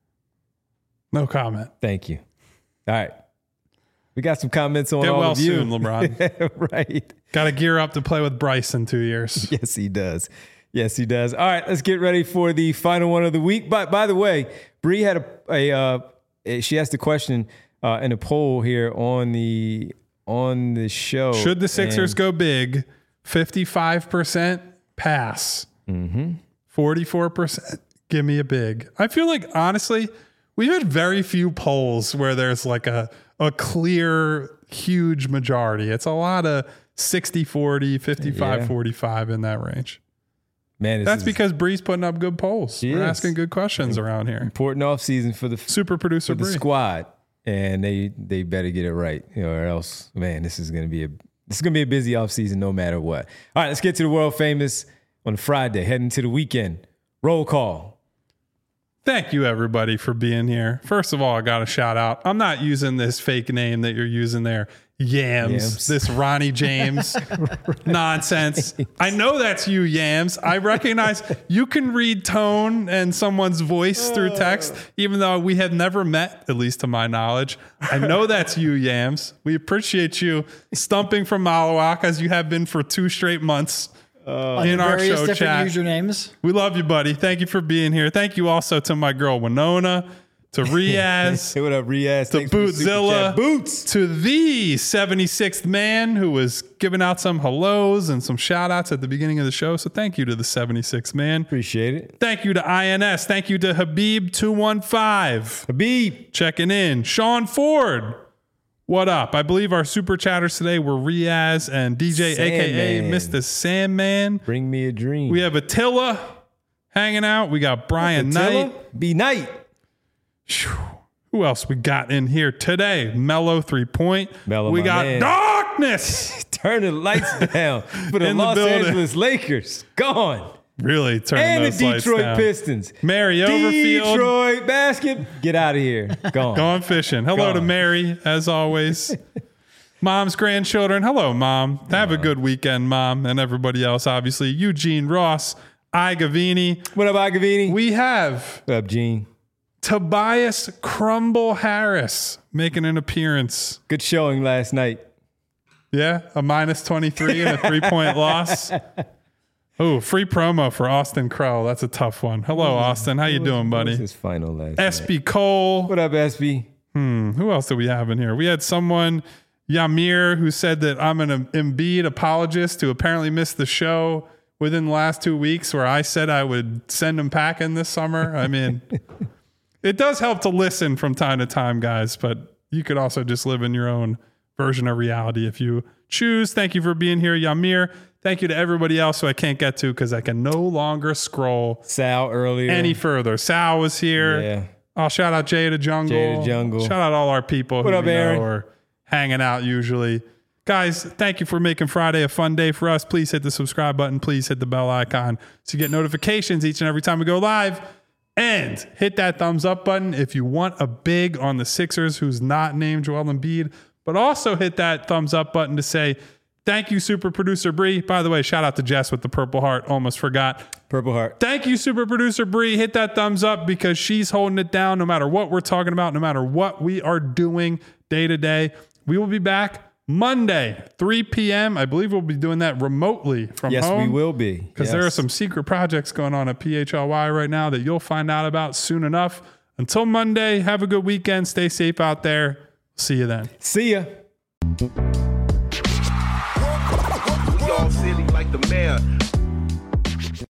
No comment. Thank you. All right. We got some comments on Get all well of you. soon, LeBron. Right. Got to gear up to play with Bryce in two years. Yes, he does. Yes, he does. All right, let's get ready for the final one of the week. But by the way, Bree had a, a, uh, a she asked a question uh, in a poll here on the on the show. Should the Sixers and, go big, fifty-five percent pass, mm-hmm. forty-four percent give me a big. I feel like, honestly, we've had very few polls where there's like a, a clear, huge majority. It's a lot of sixty forty, fifty-five forty-five in that range. Man, that's because Bree's putting up good polls. We're is. asking good questions around here. Important offseason for the super producer for the Bree. squad, and they they better get it right, you know, or else, man, this is gonna be a this is gonna be a busy offseason no matter what. All right, let's get to the world famous on Friday, heading to the weekend. Roll call. Thank you, everybody, for being here. First of all, I got a shout out. I'm not using this fake name that you're using there. Yams, Yams. This Ronnie James nonsense. I know that's you, Yams. I recognize you can read tone and someone's voice through text, even though we have never met, at least to my knowledge. I know that's you, Yams. We appreciate you stumping from Malawak as you have been for two straight months. Uh, in our show chat. Usernames. We love you, buddy. Thank you for being here. Thank you also to my girl Winona, to Riaz, hey, what up, Riaz? To Bootzilla, Boots, to the seventy-sixth man who was giving out some hellos and some shout outs at the beginning of the show. So thank you to the seventy-sixth man. Appreciate it. Thank you to I N S. Thank you to Habib two one five. Habib checking in. Sean Ford. What up? I believe our super chatters today were Riaz and D J, Sandman. A K A Mister Sandman. Bring me a dream. We have Attila hanging out. We got Brian Attila? Knight. B Knight. Who else we got in here today? Mellow three point. Mellow, we got man. Darkness. Turn the lights down for the In the Los building. Angeles Lakers. Gone. Really turning and those the lights Detroit down. Pistons. Mary Overfield. Detroit basket. Get out of here. Gone. Gone fishing. Hello Gone. to Mary, as always. Mom's grandchildren. Hello, Mom. Have a good weekend, Mom, and everybody else, obviously. Eugene Ross, I Gavini. What up, I Gavini? We have What up, Gene? Tobias Crumble Harris making an appearance. Good showing last night. Yeah, a minus twenty-three and a three-point loss. Oh, free promo for Austin Crow. That's a tough one. Hello, Austin. How you doing, buddy? His final last S B night. Cole. What up, S B? Hmm. Who else do we have in here? We had someone, Yamir, who said that I'm an Embiid apologist who apparently missed the show within the last two weeks where I said I would send him packing this summer. I mean, it does help to listen from time to time, guys, but you could also just live in your own version of reality if you choose. Thank you for being here, Yamir. Thank you to everybody else who I can't get to because I can no longer scroll Sal earlier. any further. Sal was here. Yeah. I'll shout out Jay to Jungle. Jay to Jungle. Shout out all our people What who up, we Aaron? know are hanging out usually. Guys, thank you for making Friday a fun day for us. Please hit the subscribe button. Please hit the bell icon so you get notifications each and every time we go live. And hit that thumbs up button if you want a big on the Sixers who's not named Joel Embiid. But also hit that thumbs up button to say, thank you, super producer Bree. By the way, shout out to Jess with the Purple Heart. Almost forgot. Purple Heart. Thank you, super producer Bree. Hit that thumbs up because she's holding it down no matter what we're talking about, no matter what we are doing day to day. We will be back Monday, three p.m. I believe we'll be doing that remotely from Yes, home. we will be. Because Yes. there are some secret projects going on at P H L Y right now that you'll find out about soon enough. Until Monday, have a good weekend. Stay safe out there. See you then. See ya. We all silly like the mayor.